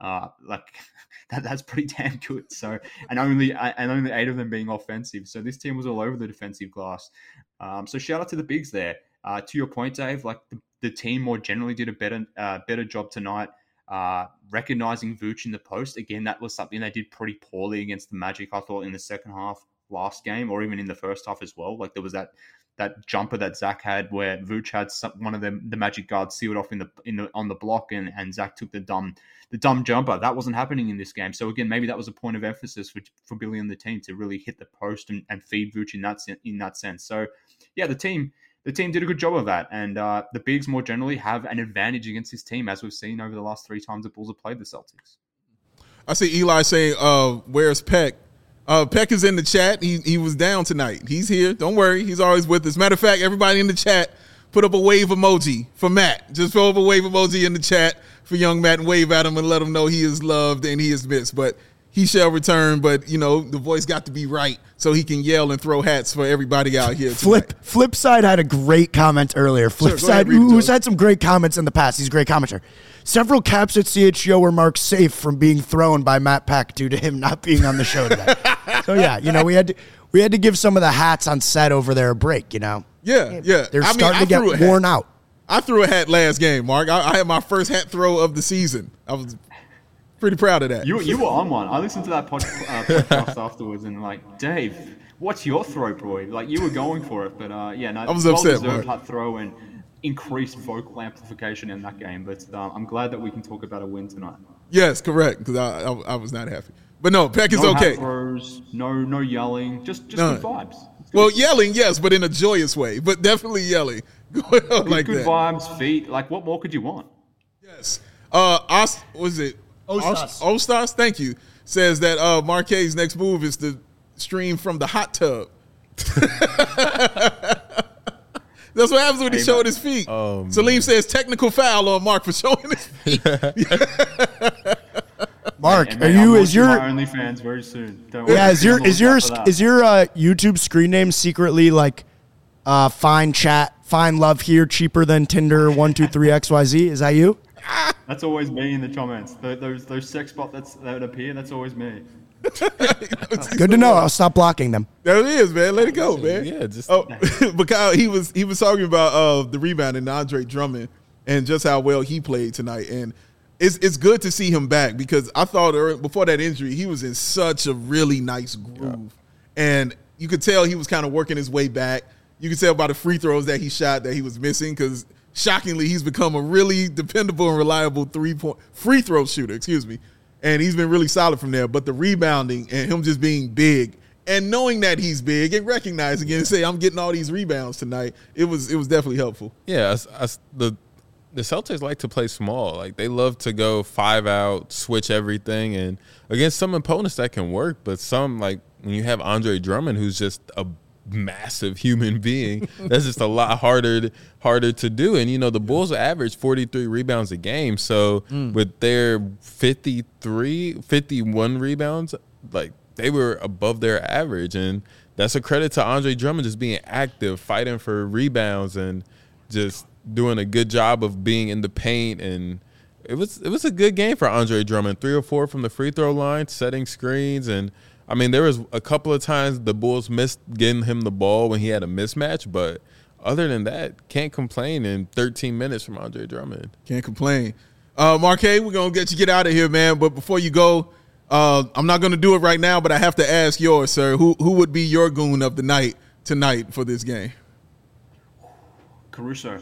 That's pretty damn good. So, and only 8 of them being offensive. So this team was all over the defensive glass. So shout out to the bigs there. To your point, Dave, the team more generally did a better job tonight. Recognizing Vooch in the post. Again, that was something they did pretty poorly against the Magic, I thought, in the second half last game, or even in the first half as well. There was that jumper that Zach had where Vooch had one of the Magic guards sealed off on the block, and Zach took the dumb jumper. That wasn't happening in this game. So again, maybe that was a point of emphasis for Billy and the team to really hit the post and feed Vooch in that sense. So yeah, the team did a good job of that, and the bigs more generally have an advantage against this team, as we've seen over the last 3 times the Bulls have played the Celtics. I see Eli saying, "Where's Peck?" Peck is in the chat. He was down tonight. He's here. Don't worry. He's always with us. Matter of fact, everybody in the chat, put up a wave emoji for Matt. Just throw up a wave emoji in the chat for young Matt and wave at him and let him know he is loved and he is missed. But he shall return. But, the voice got to be right so he can yell and throw hats for everybody out here tonight. Flipside had a great comment earlier. Flipside, who's had some great comments in the past. He's a great commenter. Several caps at CHGO were marked safe from being thrown by Matt Peck due to him not being on the show today. So yeah, we had to give some of the hats on set over there a break. Yeah. They're starting to get worn out. I threw a hat last game, Mark. I had my first hat throw of the season. I was pretty proud of that. You were on one. I listened to that podcast afterwards and Dave, what's your throw, boy? You were going for it, but I was upset. Well-deserved hat throw and increased vocal amplification in that game, but I'm glad that we can talk about a win tonight. Yes, correct, because I was not happy. But no, Peck is okay. Hat throws, no yelling, just good vibes. Well, yelling, yes, but in a joyous way, but definitely yelling. Good vibes, feet. What more could you want? Yes. Ostas, thank you, says that Marquet's next move is to stream from the hot tub. That's what happens when he showed his feet. Salim says technical foul on Mark for showing his feet. Mark, is your OnlyFans very soon? Is your YouTube screen name secretly find love here cheaper than Tinder 123XYZ? Is that you? That's always me in the comments. Those sex bots that appear, that's always me. Good to know. I'll stop blocking them. There it is, man. Let it go, man. Yeah, just but Kyle, he was talking about the rebound and Andre Drummond and just how well he played tonight, and it's good to see him back because I thought before that injury he was in such a really nice groove, and you could tell he was kind of working his way back. You could tell by the free throws that he shot that he was missing because shockingly he's become a really dependable and reliable free throw shooter. And he's been really solid from there. But the rebounding and him just being big and knowing that he's big and recognizing it and say, I'm getting all these rebounds tonight, it was definitely helpful. Yeah, the Celtics like to play small. Like, they love to go 5 out, switch everything, and against some opponents that can work, but some, like when you have Andre Drummond, who's just a massive human being, that's just a lot harder to do. And the Bulls average 43 rebounds a game, so with their 51 rebounds, like, they were above their average, and that's a credit to Andre Drummond just being active, fighting for rebounds, and just doing a good job of being in the paint. And it was a good game for Andre Drummond. 3 or 4 from the free throw line, setting screens, and I mean, there was a couple of times the Bulls missed getting him the ball when he had a mismatch, but other than that, can't complain in 13 minutes from Andre Drummond. Can't complain. Marquez, we're going to get out of here, man. But before you go, I'm not going to do it right now, but I have to ask yours, sir. Who would be your goon of the night tonight for this game? Caruso.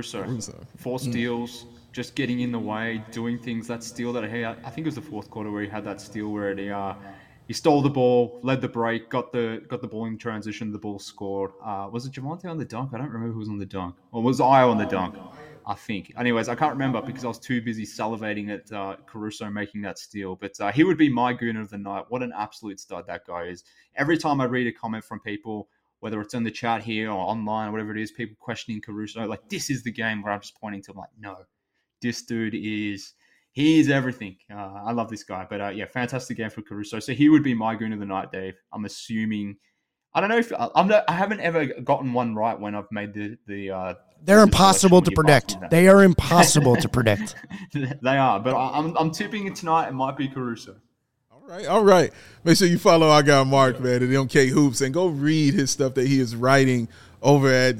4 steals, just getting in the way, doing things. That steal that I think it was the fourth quarter where he had that steal where he stole the ball, led the break, got the ball in transition, the ball scored. Was it Javonte on the dunk? I don't remember who was on the dunk. Or was I on the dunk? I think. Anyways, I can't remember because I was too busy salivating at Caruso making that steal. But he would be my goon of the night. What an absolute stud that guy is. Every time I read a comment from people, whether it's in the chat here or online or whatever it is, people questioning Caruso, like, this is the game where I'm just pointing to, I'm like, no, this dude is everything. I love this guy. But fantastic game for Caruso. So he would be my goon of the night, Dave. I'm assuming. I don't know if I haven't ever gotten one right when I've made the they're impossible to predict. They are impossible to predict. They are, but I'm tipping it tonight. It might be Caruso. All right. Make sure you follow our guy Mark, man, at MK Hoops, and go read his stuff that he is writing over at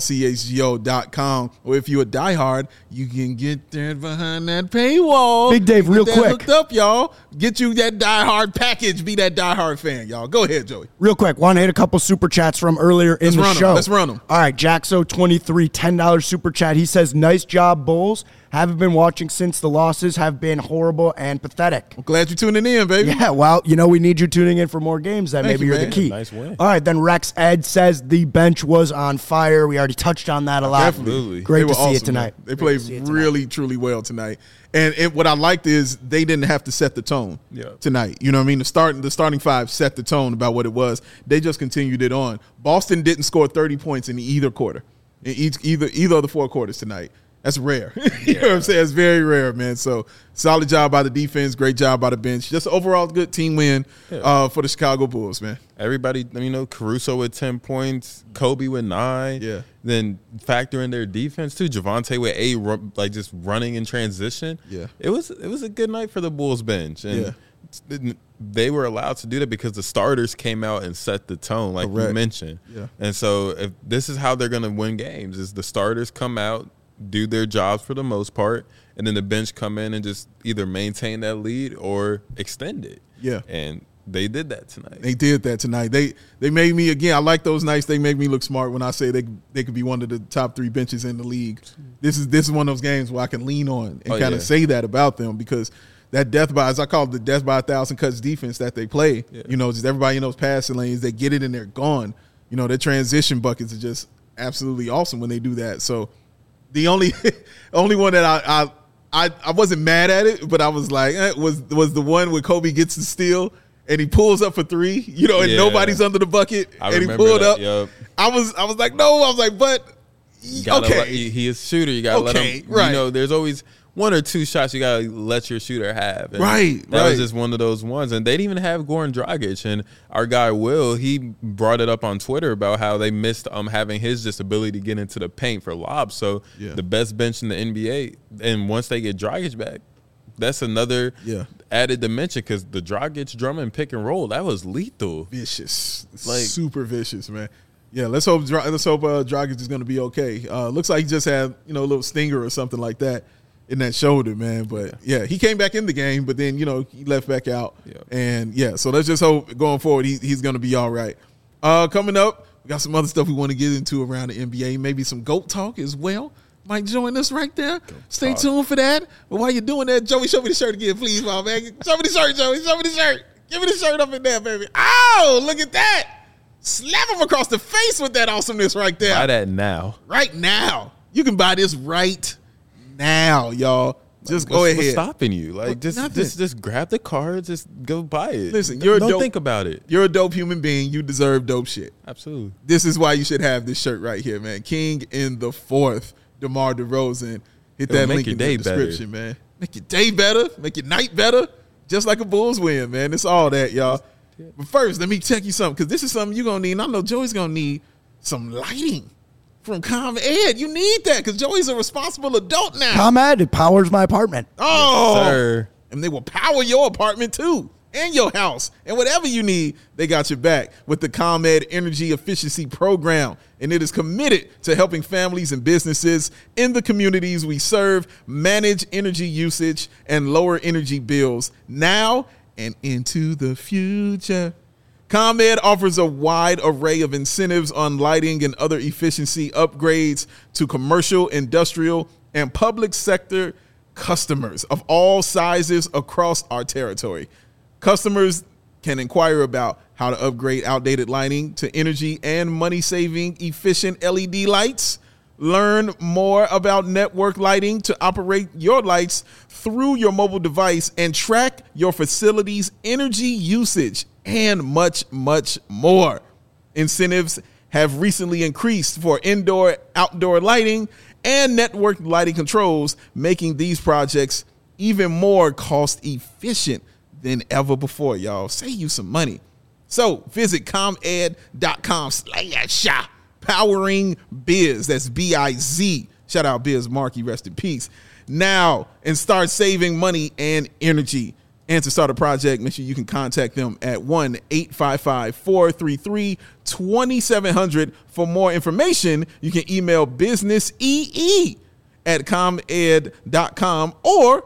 allchgo.com. Or if you're a diehard, you can get there behind that paywall. Big Dave, real quick. Hooked up, y'all. Get you that diehard package. Be that diehard fan, y'all. Go ahead, Joey. Real quick, want to hit a couple super chats from earlier in the show. Let's run them. All right, Jaxo23, $10 super chat. He says, nice job, Bulls. Haven't been watching since the losses have been horrible and pathetic. I'm glad you're tuning in, baby. Yeah, well, we need you tuning in for more games. Maybe you're the key. Nice win. All right, then Rex Ed says the bench was on fire. We already touched on that a lot. Definitely. Great to see it tonight. Man. They played really, truly well tonight. And what I liked is they didn't have to set the tone tonight. You know what I mean? The starting five set the tone about what it was. They just continued it on. Boston didn't score 30 points in either quarter, in either of the 4 quarters tonight. That's rare. You know what I'm saying? It's very rare, man. So solid job by the defense, great job by the bench. Just overall good team win for the Chicago Bulls, man. Everybody, Caruso with 10 points, Kobe with 9. Yeah. Then factor in their defense too. Javonte with 8, like just running in transition. Yeah. It was a good night for the Bulls bench, and they were allowed to do that because the starters came out and set the tone, like you mentioned. Yeah. And so if this is how they're going to win games, is the starters come out, do their jobs for the most part, and then the bench come in and just either maintain that lead or extend it. Yeah. And they did that tonight. They made me, again, I like those nights. They make me look smart when I say they could be one of the top 3 benches in the league. This is one of those games where I can lean on and kind of say that about them, because that death by, as I call it, the death by 1,000 cuts defense that they play, just everybody in those passing lanes, they get it and they're gone. Their transition buckets are just absolutely awesome when they do that. So the only one that I wasn't mad at it, but I was like, was the one where Kobe gets the steal and he pulls up for 3, and nobody's under the bucket, and he pulled up. Yep. I was like, no, I was like, but he is a shooter. You gotta let him. Right. There's always 1 or 2 shots you gotta let your shooter have. And that was just one of those ones. And they didn't even have Goran Dragic. And our guy Will, he brought it up on Twitter about how they missed having his just ability to get into the paint for lobs. So the best bench in the NBA. And once they get Dragic back, that's another added dimension, because the Dragic Drummond pick and roll, that was lethal, vicious, super vicious, man. Yeah, let's hope Dragic is going to be okay. Looks like he just had a little stinger or something like that in that shoulder, man. But he came back in the game, but then he left back out, and so let's just hope going forward he's going to be all right. Coming up, we got some other stuff we want to get into around the NBA, maybe some GOAT talk as well. Might join us right there. Stay tuned for that. But while you're doing that, Joey, show me the shirt again, please, my man. Show me the shirt, Joey. Show me the shirt. Give me the shirt up in there, baby. Oh, look at that. Slap him across the face with that awesomeness right there. Buy that now. Right now. You can buy this right now, y'all. Just go ahead. What's stopping you? Like, Nothing. just grab the card. Just go buy it. Listen, don't think about it. You're a dope human being. You deserve dope shit. Absolutely. This is why you should have this shirt right here, man. King in the fourth, DeMar DeRozan. Hit that make link your in the day description, man. Make your day better. Make your night better. Just like a Bulls win, man. It's all that, y'all. But first, let me check you something, because this is something you're going to need. And I know Joey's going to need some lighting from ComEd. You need that, because Joey's a responsible adult now. ComEd, it powers my apartment. Oh, Yes, sir. And they will power your apartment too, and your house, and whatever you need, they got your back with the ComEd Energy Efficiency Program. And it is committed to helping families and businesses in the communities we serve manage energy usage and lower energy bills now and into the future. ComEd offers a wide array of incentives on lighting and other efficiency upgrades to commercial, industrial, and public sector customers of all sizes across our territory. Customers can inquire about how to upgrade outdated lighting to energy and money-saving efficient LED lights. Learn more about network lighting to operate your lights through your mobile device and track your facility's energy usage, and much, much more. Incentives have recently increased for indoor, outdoor lighting and network lighting controls, making these projects even more cost efficient than ever before, y'all. Save you some money. So visit comed.com/powering biz. That's BIZ. Shout out Biz Markie, rest in peace. Now, and start saving money and energy. And to start a project, make sure you can contact them at 1-855-433-2700. For more information, you can email businessee@comed.com or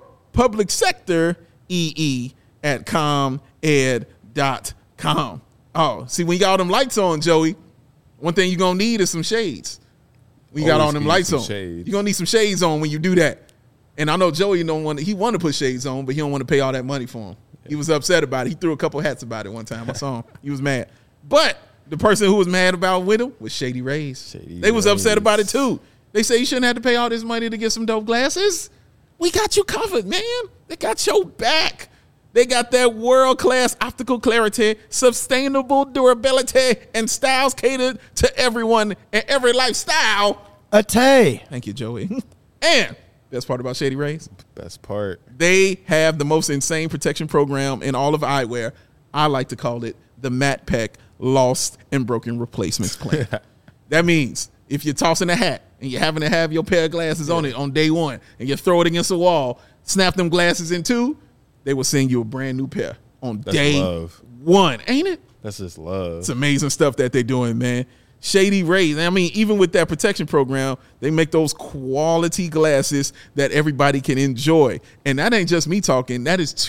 publicsectoree@comed.com. Oh, see, when you got all them lights on, Joey, one thing you're going to need is some shades. When you got all them lights on, you're going to need some shades on when you do that. And I know Joey he wanted to put shades on, but he don't want to pay all that money for them. He was upset about it. He threw a couple hats about it one time. I saw him. He was mad. But the person who was mad about with him was Shady Rays. They was upset about it too. They say you shouldn't have to pay all this money to get some dope glasses. We got you covered, man. They got your back. They got that world-class optical clarity, sustainable durability, and styles catered to everyone and every lifestyle. Thank you, Joey. And best part about Shady Rays? Best part. They have the most insane protection program in all of eyewear. I like to call it the Matt Peck Lost and Broken Replacements Plan. That means if you're tossing a hat and you're having to have your pair of glasses on it on day one and you throw it against a wall, snap them glasses in two, they will send you a brand new pair on day one. Ain't it? That's just love. It's amazing stuff that they're doing, man. Shady Rays. I mean, even with that protection program, they make those quality glasses that everybody can enjoy. And that ain't just me talking. That is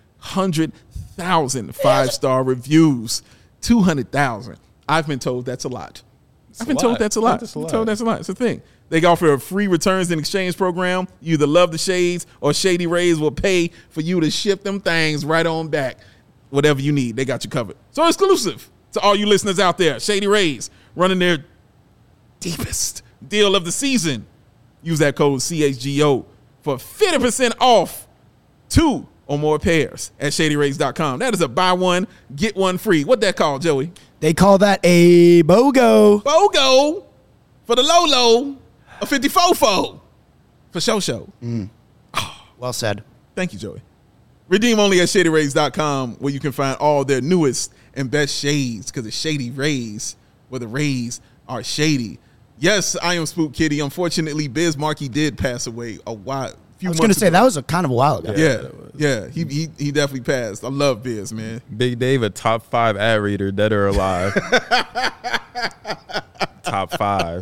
200,000 five-star reviews. 200,000. I've been told that's a lot. I've been told that's a lot. It's a thing. They offer a free returns and exchange program. You either love the shades or Shady Rays will pay for you to ship them things right on back. Whatever you need, they got you covered. So exclusive to all you listeners out there. Shady Rays running their deepest deal of the season. Use that code CHGO for 50% off 2 or more pairs at ShadyRays.com. That is a buy one, get one free. What that called, Joey? They call that a BOGO. BOGO for the low, a 54-fold for show. Well said. Thank you, Joey. Redeem only at ShadyRays.com, where you can find all their newest and best shades, because it's Shady Rays, where the rays are shady. Yes, I am Spook Kitty. Unfortunately, Biz Markie did pass away a while. I was going to say, that was a kind of a while ago. Yeah, he definitely passed. I love Biz, man. Big Dave, a top 5 ad reader, dead or alive. Top 5.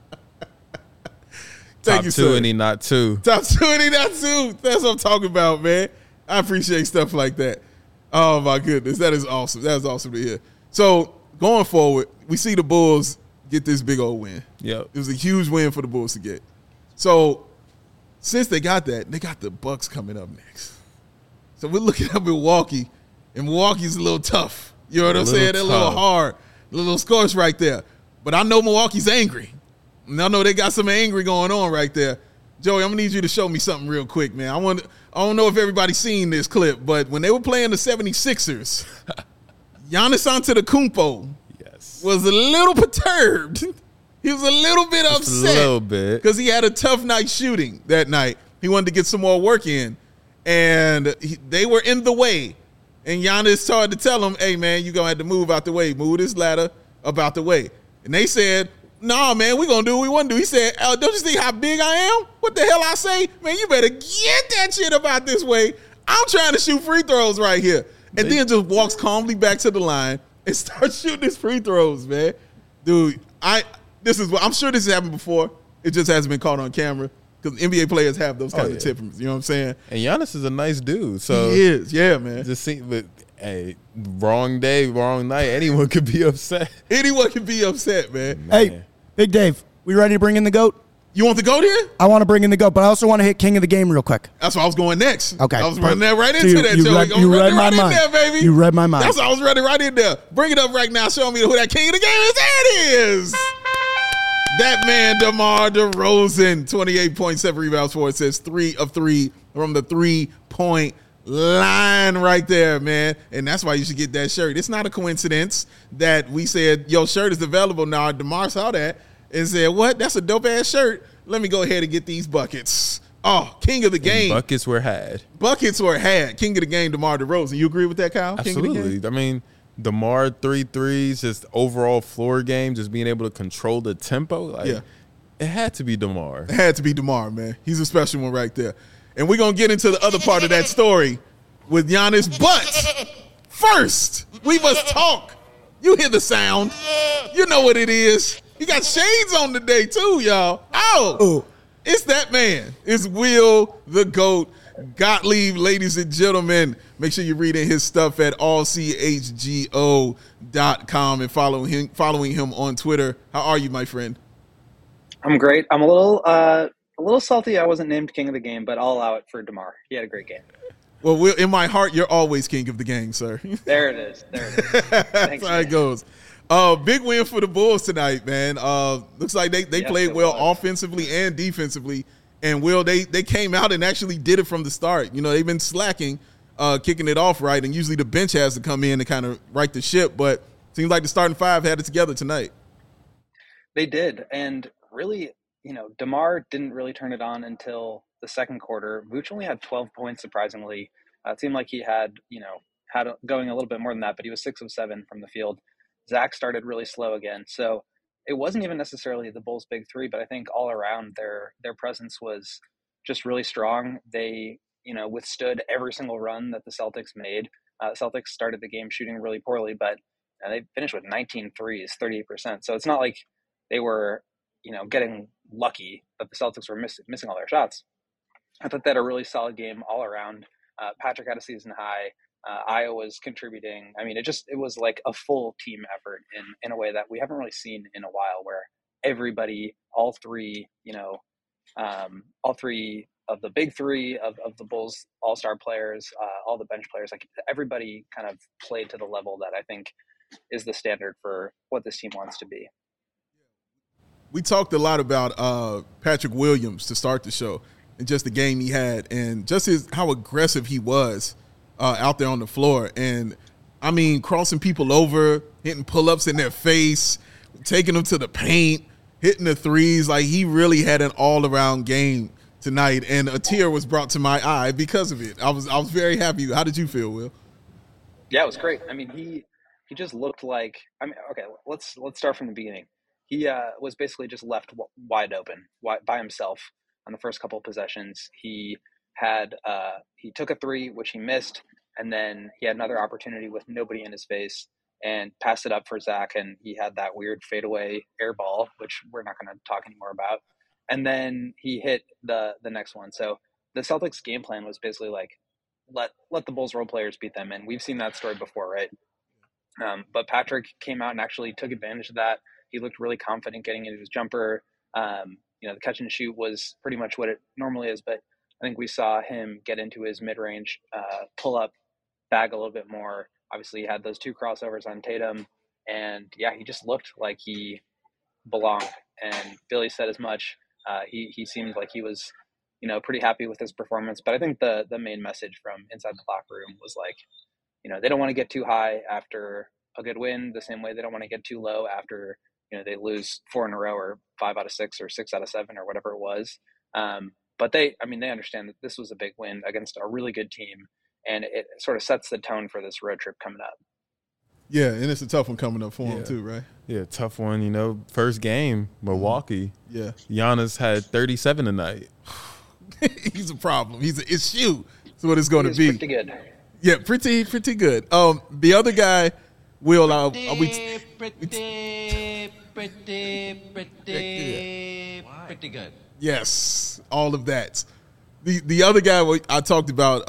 Thank top you, 2 sir. and he not 2. Top 2 and he not 2. That's what I'm talking about, man. I appreciate stuff like that. Oh, my goodness. That is awesome. That is awesome to hear. So, going forward, we see the Bulls get this big old win. Yep. It was a huge win for the Bulls to get. So, since they got that, they got the Bucks coming up next. So, we're looking at Milwaukee, And Milwaukee's a little tough. You know what I'm saying? They're a tough. little hard, a little scorched right there. But I know Milwaukee's angry. And I know they got some angry going on right there. Joey, I'm gonna need you to show me something real quick, man. I don't know if everybody's seen this clip, but when they were playing the 76ers, Giannis Antetokounmpo was a little perturbed. He was a little bit upset. A little bit. Because he had a tough night shooting that night. He wanted to get some more work in. And they were in the way. And Giannis started to tell him, hey, man, you're going to have to move out the way. Move this ladder about the way. And they said, nah, man, we're going to do what we want to do. He said, don't you see how big I am? What the hell I say? Man, you better get that shit about this way. I'm trying to shoot free throws right here. And then just walks calmly back to the line and starts shooting his free throws, man. Dude, I'm sure this has happened before. It just hasn't been caught on camera because NBA players have those kinds of temperaments. You know what I'm saying? And Giannis is a nice dude. So he is, yeah, man. But hey, wrong day, wrong night. Anyone could be upset. Anyone can be upset, man. Hey, Big Dave, we ready to bring in the GOAT? You want the GOAT here? I want to bring in the GOAT, but I also want to hit King of the Game real quick. That's why I was going next. Okay. I was running that right into that, you Joey. You read my mind. There, baby. You read my mind. That's why I was running right in there. Bring it up right now. Show me who that King of the Game is. There it is. That man, DeMar DeRozan, 28.7 rebounds for it. Says 3 of 3 from the 3-point line right there, man. And that's why you should get that shirt. It's not a coincidence that we said, your shirt is available now. DeMar saw that and said, what? That's a dope-ass shirt. Let me go ahead and get these buckets. Oh, King of the Game. And buckets were had. Buckets were had. King of the Game, DeMar DeRozan. You agree with that, Kyle? Absolutely. King of the Game? I mean, DeMar 3 threes, just overall floor game, just being able to control the tempo. Like, it had to be DeMar. It had to be DeMar, man. He's a special one right there. And we're going to get into the other part of that story with Giannis. But first, we must talk. You hear the sound. You know what it is. He got shades on today, too, y'all. Oh, it's that man. It's Will the GOAT Gottlieb, ladies and gentlemen. Make sure you're reading his stuff at allchgo.com and following him on Twitter. How are you, my friend? I'm great. I'm a little salty I wasn't named King of the Game, but I'll allow it for DeMar. He had a great game. Well, Will, in my heart, you're always King of the Game, sir. There it is. Thanks, That's how it goes. Big win for the Bulls tonight, man. Looks like they played well offensively and defensively. And, Will, they came out and actually did it from the start. You know, they've been slacking, kicking it off right, and usually the bench has to come in and kind of right the ship. But seems like the starting five had it together tonight. They did. And really, DeMar didn't really turn it on until the second quarter. Vooch only had 12 points, surprisingly. It seemed like he had going a little bit more than that, but he was 6 of 7 from the field. Zach started really slow again. So it wasn't even necessarily the Bulls' big three, but I think all around their presence was just really strong. They, withstood every single run that the Celtics made. Celtics started the game shooting really poorly, but they finished with 19 threes, 38%. So it's not like they were, getting lucky that the Celtics were missing all their shots. I thought they had a really solid game all around. Patrick had a season high. Iowa was contributing. I mean, it was like a full team effort in a way that we haven't really seen in a while, where everybody, all three of the big three of the Bulls all-star players, all the bench players, like everybody kind of played to the level that I think is the standard for what this team wants to be. We talked a lot about Patrick Williams to start the show and just the game he had and just how aggressive he was out there on the floor. And, I mean, crossing people over, hitting pull-ups in their face, taking them to the paint, hitting the threes. Like, he really had an all-around game tonight, and a tear was brought to my eye because of it. I was very happy. How did you feel, Will? Yeah, it was great. I mean, he just looked like – okay, let's start from the beginning. He was basically just left wide open by himself on the first couple of possessions. He took a three, which he missed, and then he had another opportunity with nobody in his face and passed it up for Zach, and he had that weird fadeaway air ball, which we're not going to talk anymore about. And then he hit the next one. So the Celtics game plan was basically like, let the Bulls role players beat them, and we've seen that story before, right? But Patrick came out and actually took advantage of that. He looked really confident getting into his jumper. The catch and shoot was pretty much what it normally is, but I think we saw him get into his mid-range pull-up bag a little bit more. Obviously, he had those 2 crossovers on Tatum, and yeah, he just looked like he belonged. And Billy said as much. He seemed like he was, pretty happy with his performance. But I think the main message from inside the locker room was like, they don't want to get too high after a good win, the same way they don't want to get too low after they lose 4 in a row or 5 out of 6 or 6 out of 7 or whatever it was. But they understand that this was a big win against a really good team, and it sort of sets the tone for this road trip coming up. Yeah, and it's a tough one coming up for him too, right? Yeah, tough one. First game, Milwaukee. Yeah, Giannis had 37 tonight. He's a problem. It's you. That's what it's going to be. Pretty good. Yeah, pretty good. The other guy, Will, pretty good. Yes, all of that. The other guy we talked about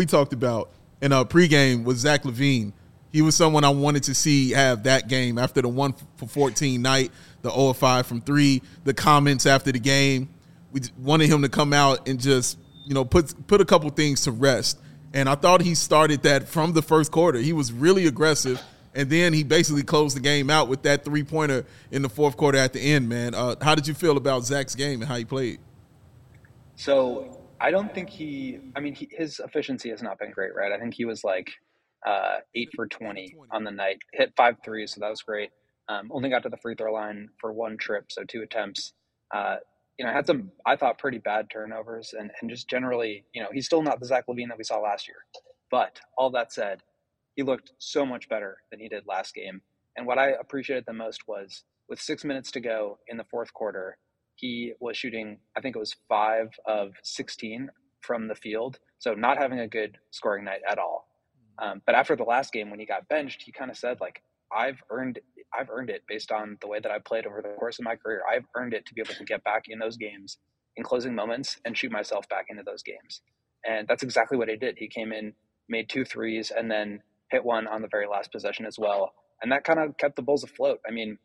in our pregame was Zach LaVine. He was someone I wanted to see have that game after the 1 for 14 night, the 0 of 5 from 3, the comments after the game. We wanted him to come out and just, put a couple things to rest. And I thought he started that from the first quarter. He was really aggressive, and then he basically closed the game out with that 3-pointer in the fourth quarter at the end, man. How did you feel about Zach's game and how he played? So I don't think his efficiency has not been great, right? I think he was like 8 for 20 on the night, hit 5 threes, so that was great. Only got to the free throw line for 1 trip, so 2 attempts. Had some, I thought, pretty bad turnovers, and just generally, he's still not the Zach LaVine that we saw last year. But all that said, he looked so much better than he did last game. And what I appreciated the most was with 6 minutes to go in the fourth quarter, he was shooting, I think it was 5 of 16 from the field. So not having a good scoring night at all. But after the last game, when he got benched, he kind of said, like, I've earned it based on the way that I played over the course of my career. I've earned it to be able to get back in those games in closing moments and shoot myself back into those games. And that's exactly what he did. He came in, made 2 threes, and then hit 1 on the very last possession as well. And that kind of kept the Bulls afloat. I mean,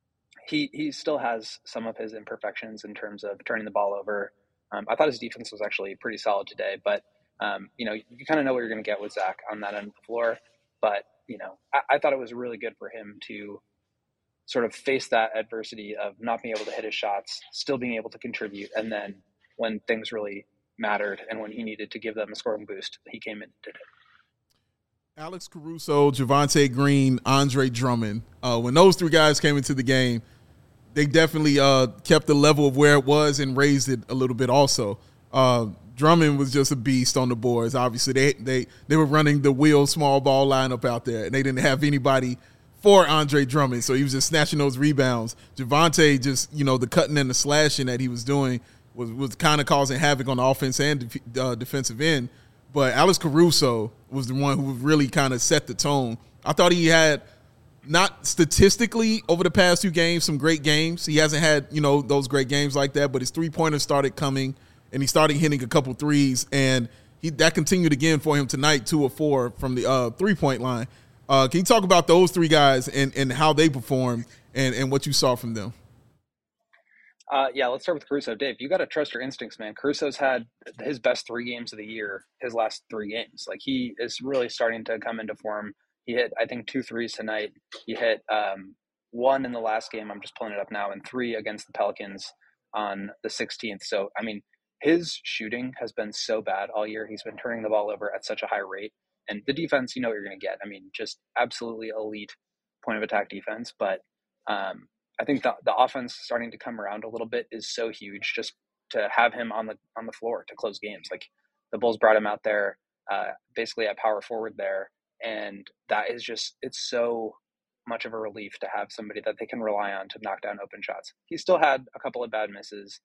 he still has some of his imperfections in terms of turning the ball over. I thought his defense was actually pretty solid today, but you kind of know what you're going to get with Zach on that end of the floor. But, I thought it was really good for him to sort of face that adversity of not being able to hit his shots, still being able to contribute. And then when things really mattered and when he needed to give them a scoring boost, he came in and did it. Alex Caruso, Javonte Green, Andre Drummond. When those 3 guys came into the game, they definitely kept the level of where it was and raised it a little bit also. Drummond was just a beast on the boards. Obviously, they were running the wheel small ball lineup out there, and they didn't have anybody for Andre Drummond, so he was just snatching those rebounds. Javonte just, the cutting and the slashing that he was doing was kind of causing havoc on the offense and defensive end. But Alex Caruso was the one who really kind of set the tone. I thought he had, not statistically over the past 2 games, some great games. He hasn't had, those great games like that, but his 3-pointers started coming, and he started hitting a couple threes, and that continued again for him tonight, 2 of 4 from the 3-point line. Can you talk about those 3 guys and how they performed and what you saw from them? Let's start with Caruso. Dave, you got to trust your instincts, man. Caruso's had his best 3 games of the year, his last 3 games. Like, he is really starting to come into form. He hit, I think, 2 threes tonight. He hit 1 in the last game. I'm just pulling it up now, and 3 against the Pelicans on the 16th. So, I mean, his shooting has been so bad all year. He's been turning the ball over at such a high rate. And the defense, what you're going to get. I mean, just absolutely elite point of attack defense. But I think the offense starting to come around a little bit is so huge, just to have him on the floor to close games. Like, the Bulls brought him out there basically at power forward there. And that is just, it's so much of a relief to have somebody that they can rely on to knock down open shots. He still had a couple of bad misses,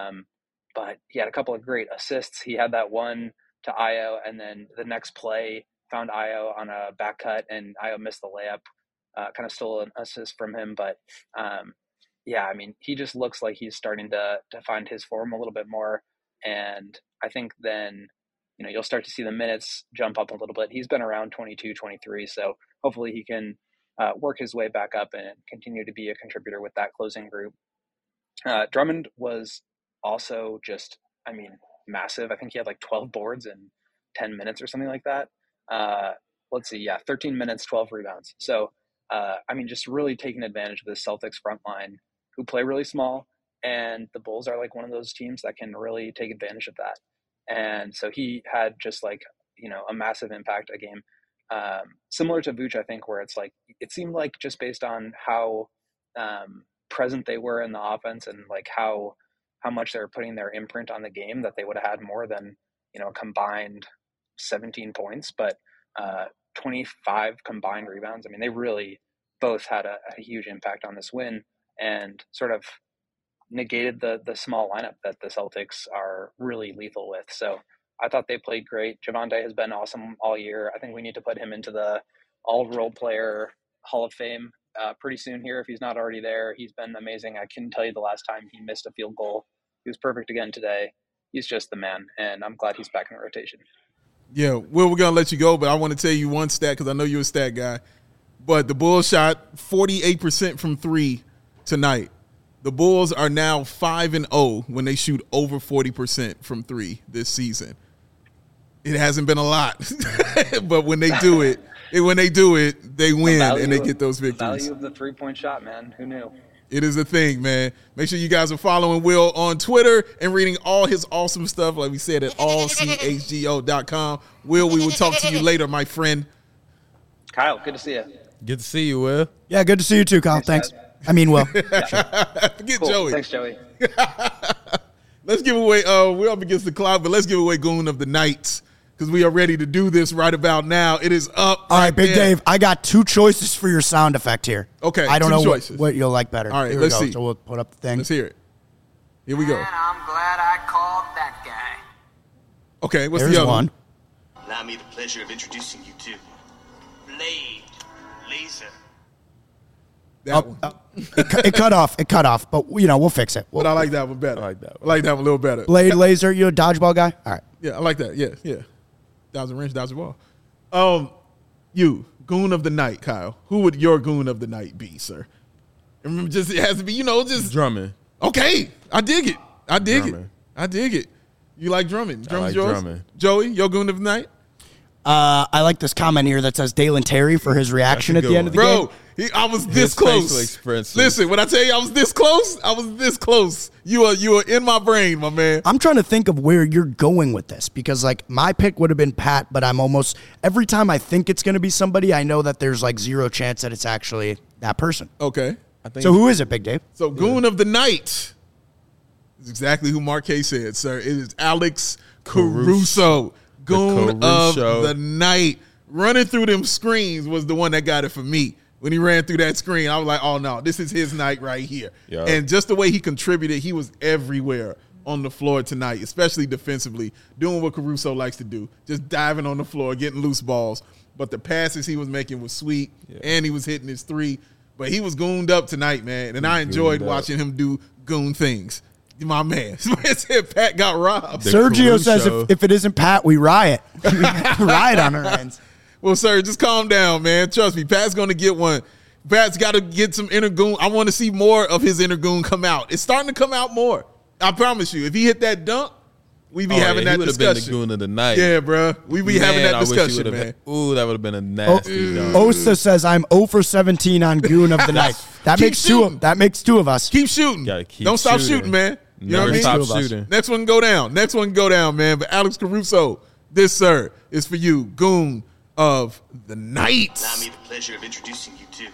but he had a couple of great assists. He had that one to Ayo, and then the next play found Ayo on a back cut, and Ayo missed the layup, kind of stole an assist from him. But I mean, he just looks like he's starting to find his form a little bit more. And I think then, you'll start to see the minutes jump up a little bit. He's been around 22, 23, so hopefully he can work his way back up and continue to be a contributor with that closing group. Drummond was also just, massive. I think he had like 12 boards in 10 minutes or something like that. let's see, 13 minutes, 12 rebounds. So, just really taking advantage of the Celtics front line, who play really small, and the Bulls are like one of those teams that can really take advantage of that. And so he had just like, a massive impact a game. Similar to Vooch, I think, where it's like, it seemed like just based on how present they were in the offense and like how much they were putting their imprint on the game, that they would have had more than, a combined 17 points, but 25 combined rebounds. I mean, they really both had a huge impact on this win and sort of negated the small lineup that the Celtics are really lethal with. So I thought they played great. Javonte has been awesome all year. I think we need to put him into the all-role player Hall of Fame pretty soon here if he's not already there. He's been amazing. I couldn't tell you the last time he missed a field goal. He was perfect again today. He's just the man, and I'm glad he's back in the rotation. Yeah, Will, we're going to let you go, but I want to tell you one stat because I know you're a stat guy. But the Bulls shot 48% from three tonight. The Bulls are now 5-0 when they shoot over 40% from three this season. It hasn't been a lot, but when they do it, they win and they get those victories. The value of the three-point shot, man. Who knew? It is a thing, man. Make sure you guys are following Will on Twitter and reading all his awesome stuff, like we said, at allchgo.com. Will, we will talk to you later, my friend. Kyle, good to see you. Good to see you, Will. Yeah, good to see you too, Kyle. Thanks. I mean, Will. Forget Cool. Joey. Thanks, Joey. Let's give away, we're up against the clock, but let's give away Goon of the Night because we are ready to do this right about now. It is up. All right, Big there. Dave, I got two choices for your sound effect here. Okay, I don't two know choices. what you'll like better. All right, Here let's we go. see. So we'll put up the thing. Let's hear it. Here we go. And I'm glad I called that guy. Okay, what's There's the other one. Allow me the pleasure of introducing you to Blade Laser. That one. It cut off. It cut off, but we'll fix it. But I like that one better. I like that one. I like that one a little better. Blade laser, you a dodgeball guy? All right. Yeah, I like that. Yeah. Dodge a wrench, dodge a ball. You, Goon of the Night, Kyle. Who would your Goon of the Night be, sir? And remember, it has to be, just Drummond. Okay, I dig it. Drummond. I dig it. You like Drummond? Drummond's like yours? Drummond. Joey, your Goon of the Night? I like this comment here that says Dalen Terry for his reaction at That's a the good end of the game. Bro, I was this His facial close. expressions. Listen, when I tell you I was this close, you are in my brain, my man. I'm trying to think of where you're going with this because, my pick would have been Pat, but I'm almost every time I think it's going to be somebody, I know that there's zero chance that it's actually that person. Okay. I think So who is it, Big Dave? So Goon of the Night is exactly who Marquez said, sir. It is Alex Caruso. Goon of Caruso. the Night. Running through them screens was the one that got it for me. When he ran through that screen, I was like, oh, no, this is his night right here. Yep. And just the way he contributed, he was everywhere on the floor tonight, especially defensively, doing what Caruso likes to do, just diving on the floor, getting loose balls. But the passes he was making was sweet, and he was hitting his three. But he was gooned up tonight, man, and I enjoyed watching him do goon things. My man. Somebody said Pat got robbed. Sergio says Caruso. if it isn't Pat, we riot. We riot on our ends. Well, sir, just calm down, man. Trust me, Pat's going to get one. Pat's got to get some inner goon. I want to see more of his inner goon come out. It's starting to come out more. I promise you. If he hit that dunk, we be having that he discussion. He would have been the Goon of the Night. Yeah, bro. We be having that discussion, man. Ooh, that would have been a nasty dunk. Osa says I'm 0 for 17 on Goon of the Night. That Keep makes shooting. That makes two of us. Keep shooting. Gotta keep Don't stop shooting. shooting, man. You know Never what I mean? stop shooting. Next one go down. Next one go down, man. But Alex Caruso, this, sir, is for you. Goon of the Night. Allow me the pleasure of introducing you to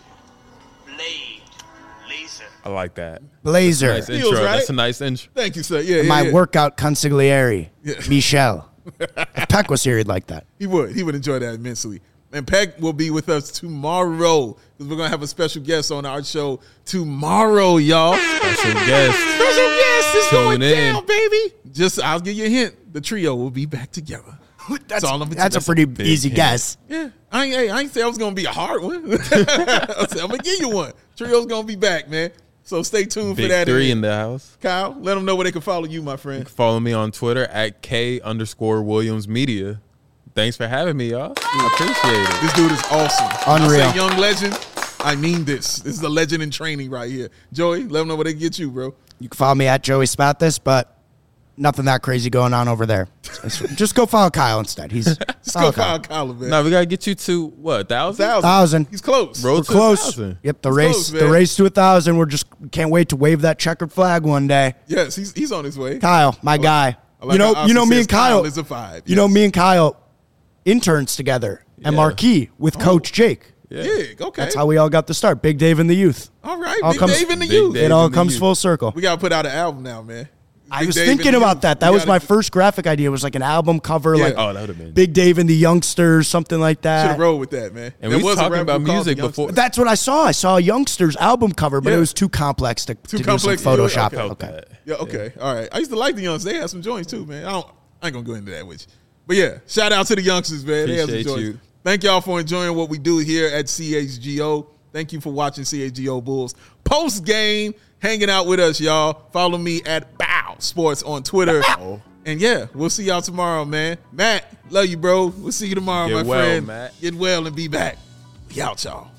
Blade Laser. I like that. Blazer. Nice Feels intro. right. That's a nice intro. Thank you, sir. Yeah, My yeah. workout consigliere, Michelle. If Peck was here, he'd like that. He would enjoy that immensely. And Peck will be with us tomorrow because we're going to have a special guest on our show tomorrow, y'all. Special guest. Special guest is Tune going in. down, baby. I'll give you a hint. The trio will be back together. That's all I'm That's a pretty big easy hint. guess. Yeah, I ain't say I was gonna be a hard one. I said I'm gonna give you one. Trio's gonna be back, man. So stay tuned for Big that. three in the house. Kyle, let them know where they can follow you, my friend. Follow me on Twitter at K_Williams Media. Thanks for having me, y'all. I appreciate it. This dude is awesome. Unreal. I say young legend. I mean this. This is a legend in training right here. Joey, let them know where they can get you, bro. You can follow me at Joey Spathis, but nothing that crazy going on over there. Just go follow Kyle instead. Just go follow Kyle, man. No, we gotta get you to what 1,000? 1,000. He's close. Road We're to close. 1,000. Yep, He's close, the man. race to 1,000. We're just can't wait to wave that checkered flag one day. Yes, he's on his way. Kyle, my guy. I like how You know Austin me says and Kyle. is a 5. You know me and Kyle interns together at Marquee with Coach Jake. Big, okay. That's how we all got the start. Big Dave and the youth. All right, All Big comes- Dave and the Big youth. Dave. It all and the comes youth. full circle. We gotta put out an album now, man. I Big was Dave and thinking the about youth. that. That We was gotta my first graphic idea. It was like an album cover, Yeah. like Oh, that would have been. Big Dave and the Youngsters, something like Should that. have rolled with that, man. And There we was a talking rap about group called music The before. Youngsters. That's what I saw. I saw a Youngsters album cover, but Yeah. it was too complex to do complex some to do it? Photoshop. Okay. Okay. Yeah, okay. All right. I used to like the Youngsters. They had some joints too, man. I ain't gonna go into that with you. But yeah, shout out to the Youngsters, man. They had some Appreciate joints. you. Thank y'all for enjoying what we do here at CHGO. Thank you for watching CHGO Bulls post game, hanging out with us, y'all. Follow me at Bow Sports on Twitter. And yeah, we'll see y'all tomorrow, man. Matt, love you, bro. We'll see you tomorrow, Get my well, friend. Matt. Get well and be back. We out, y'all.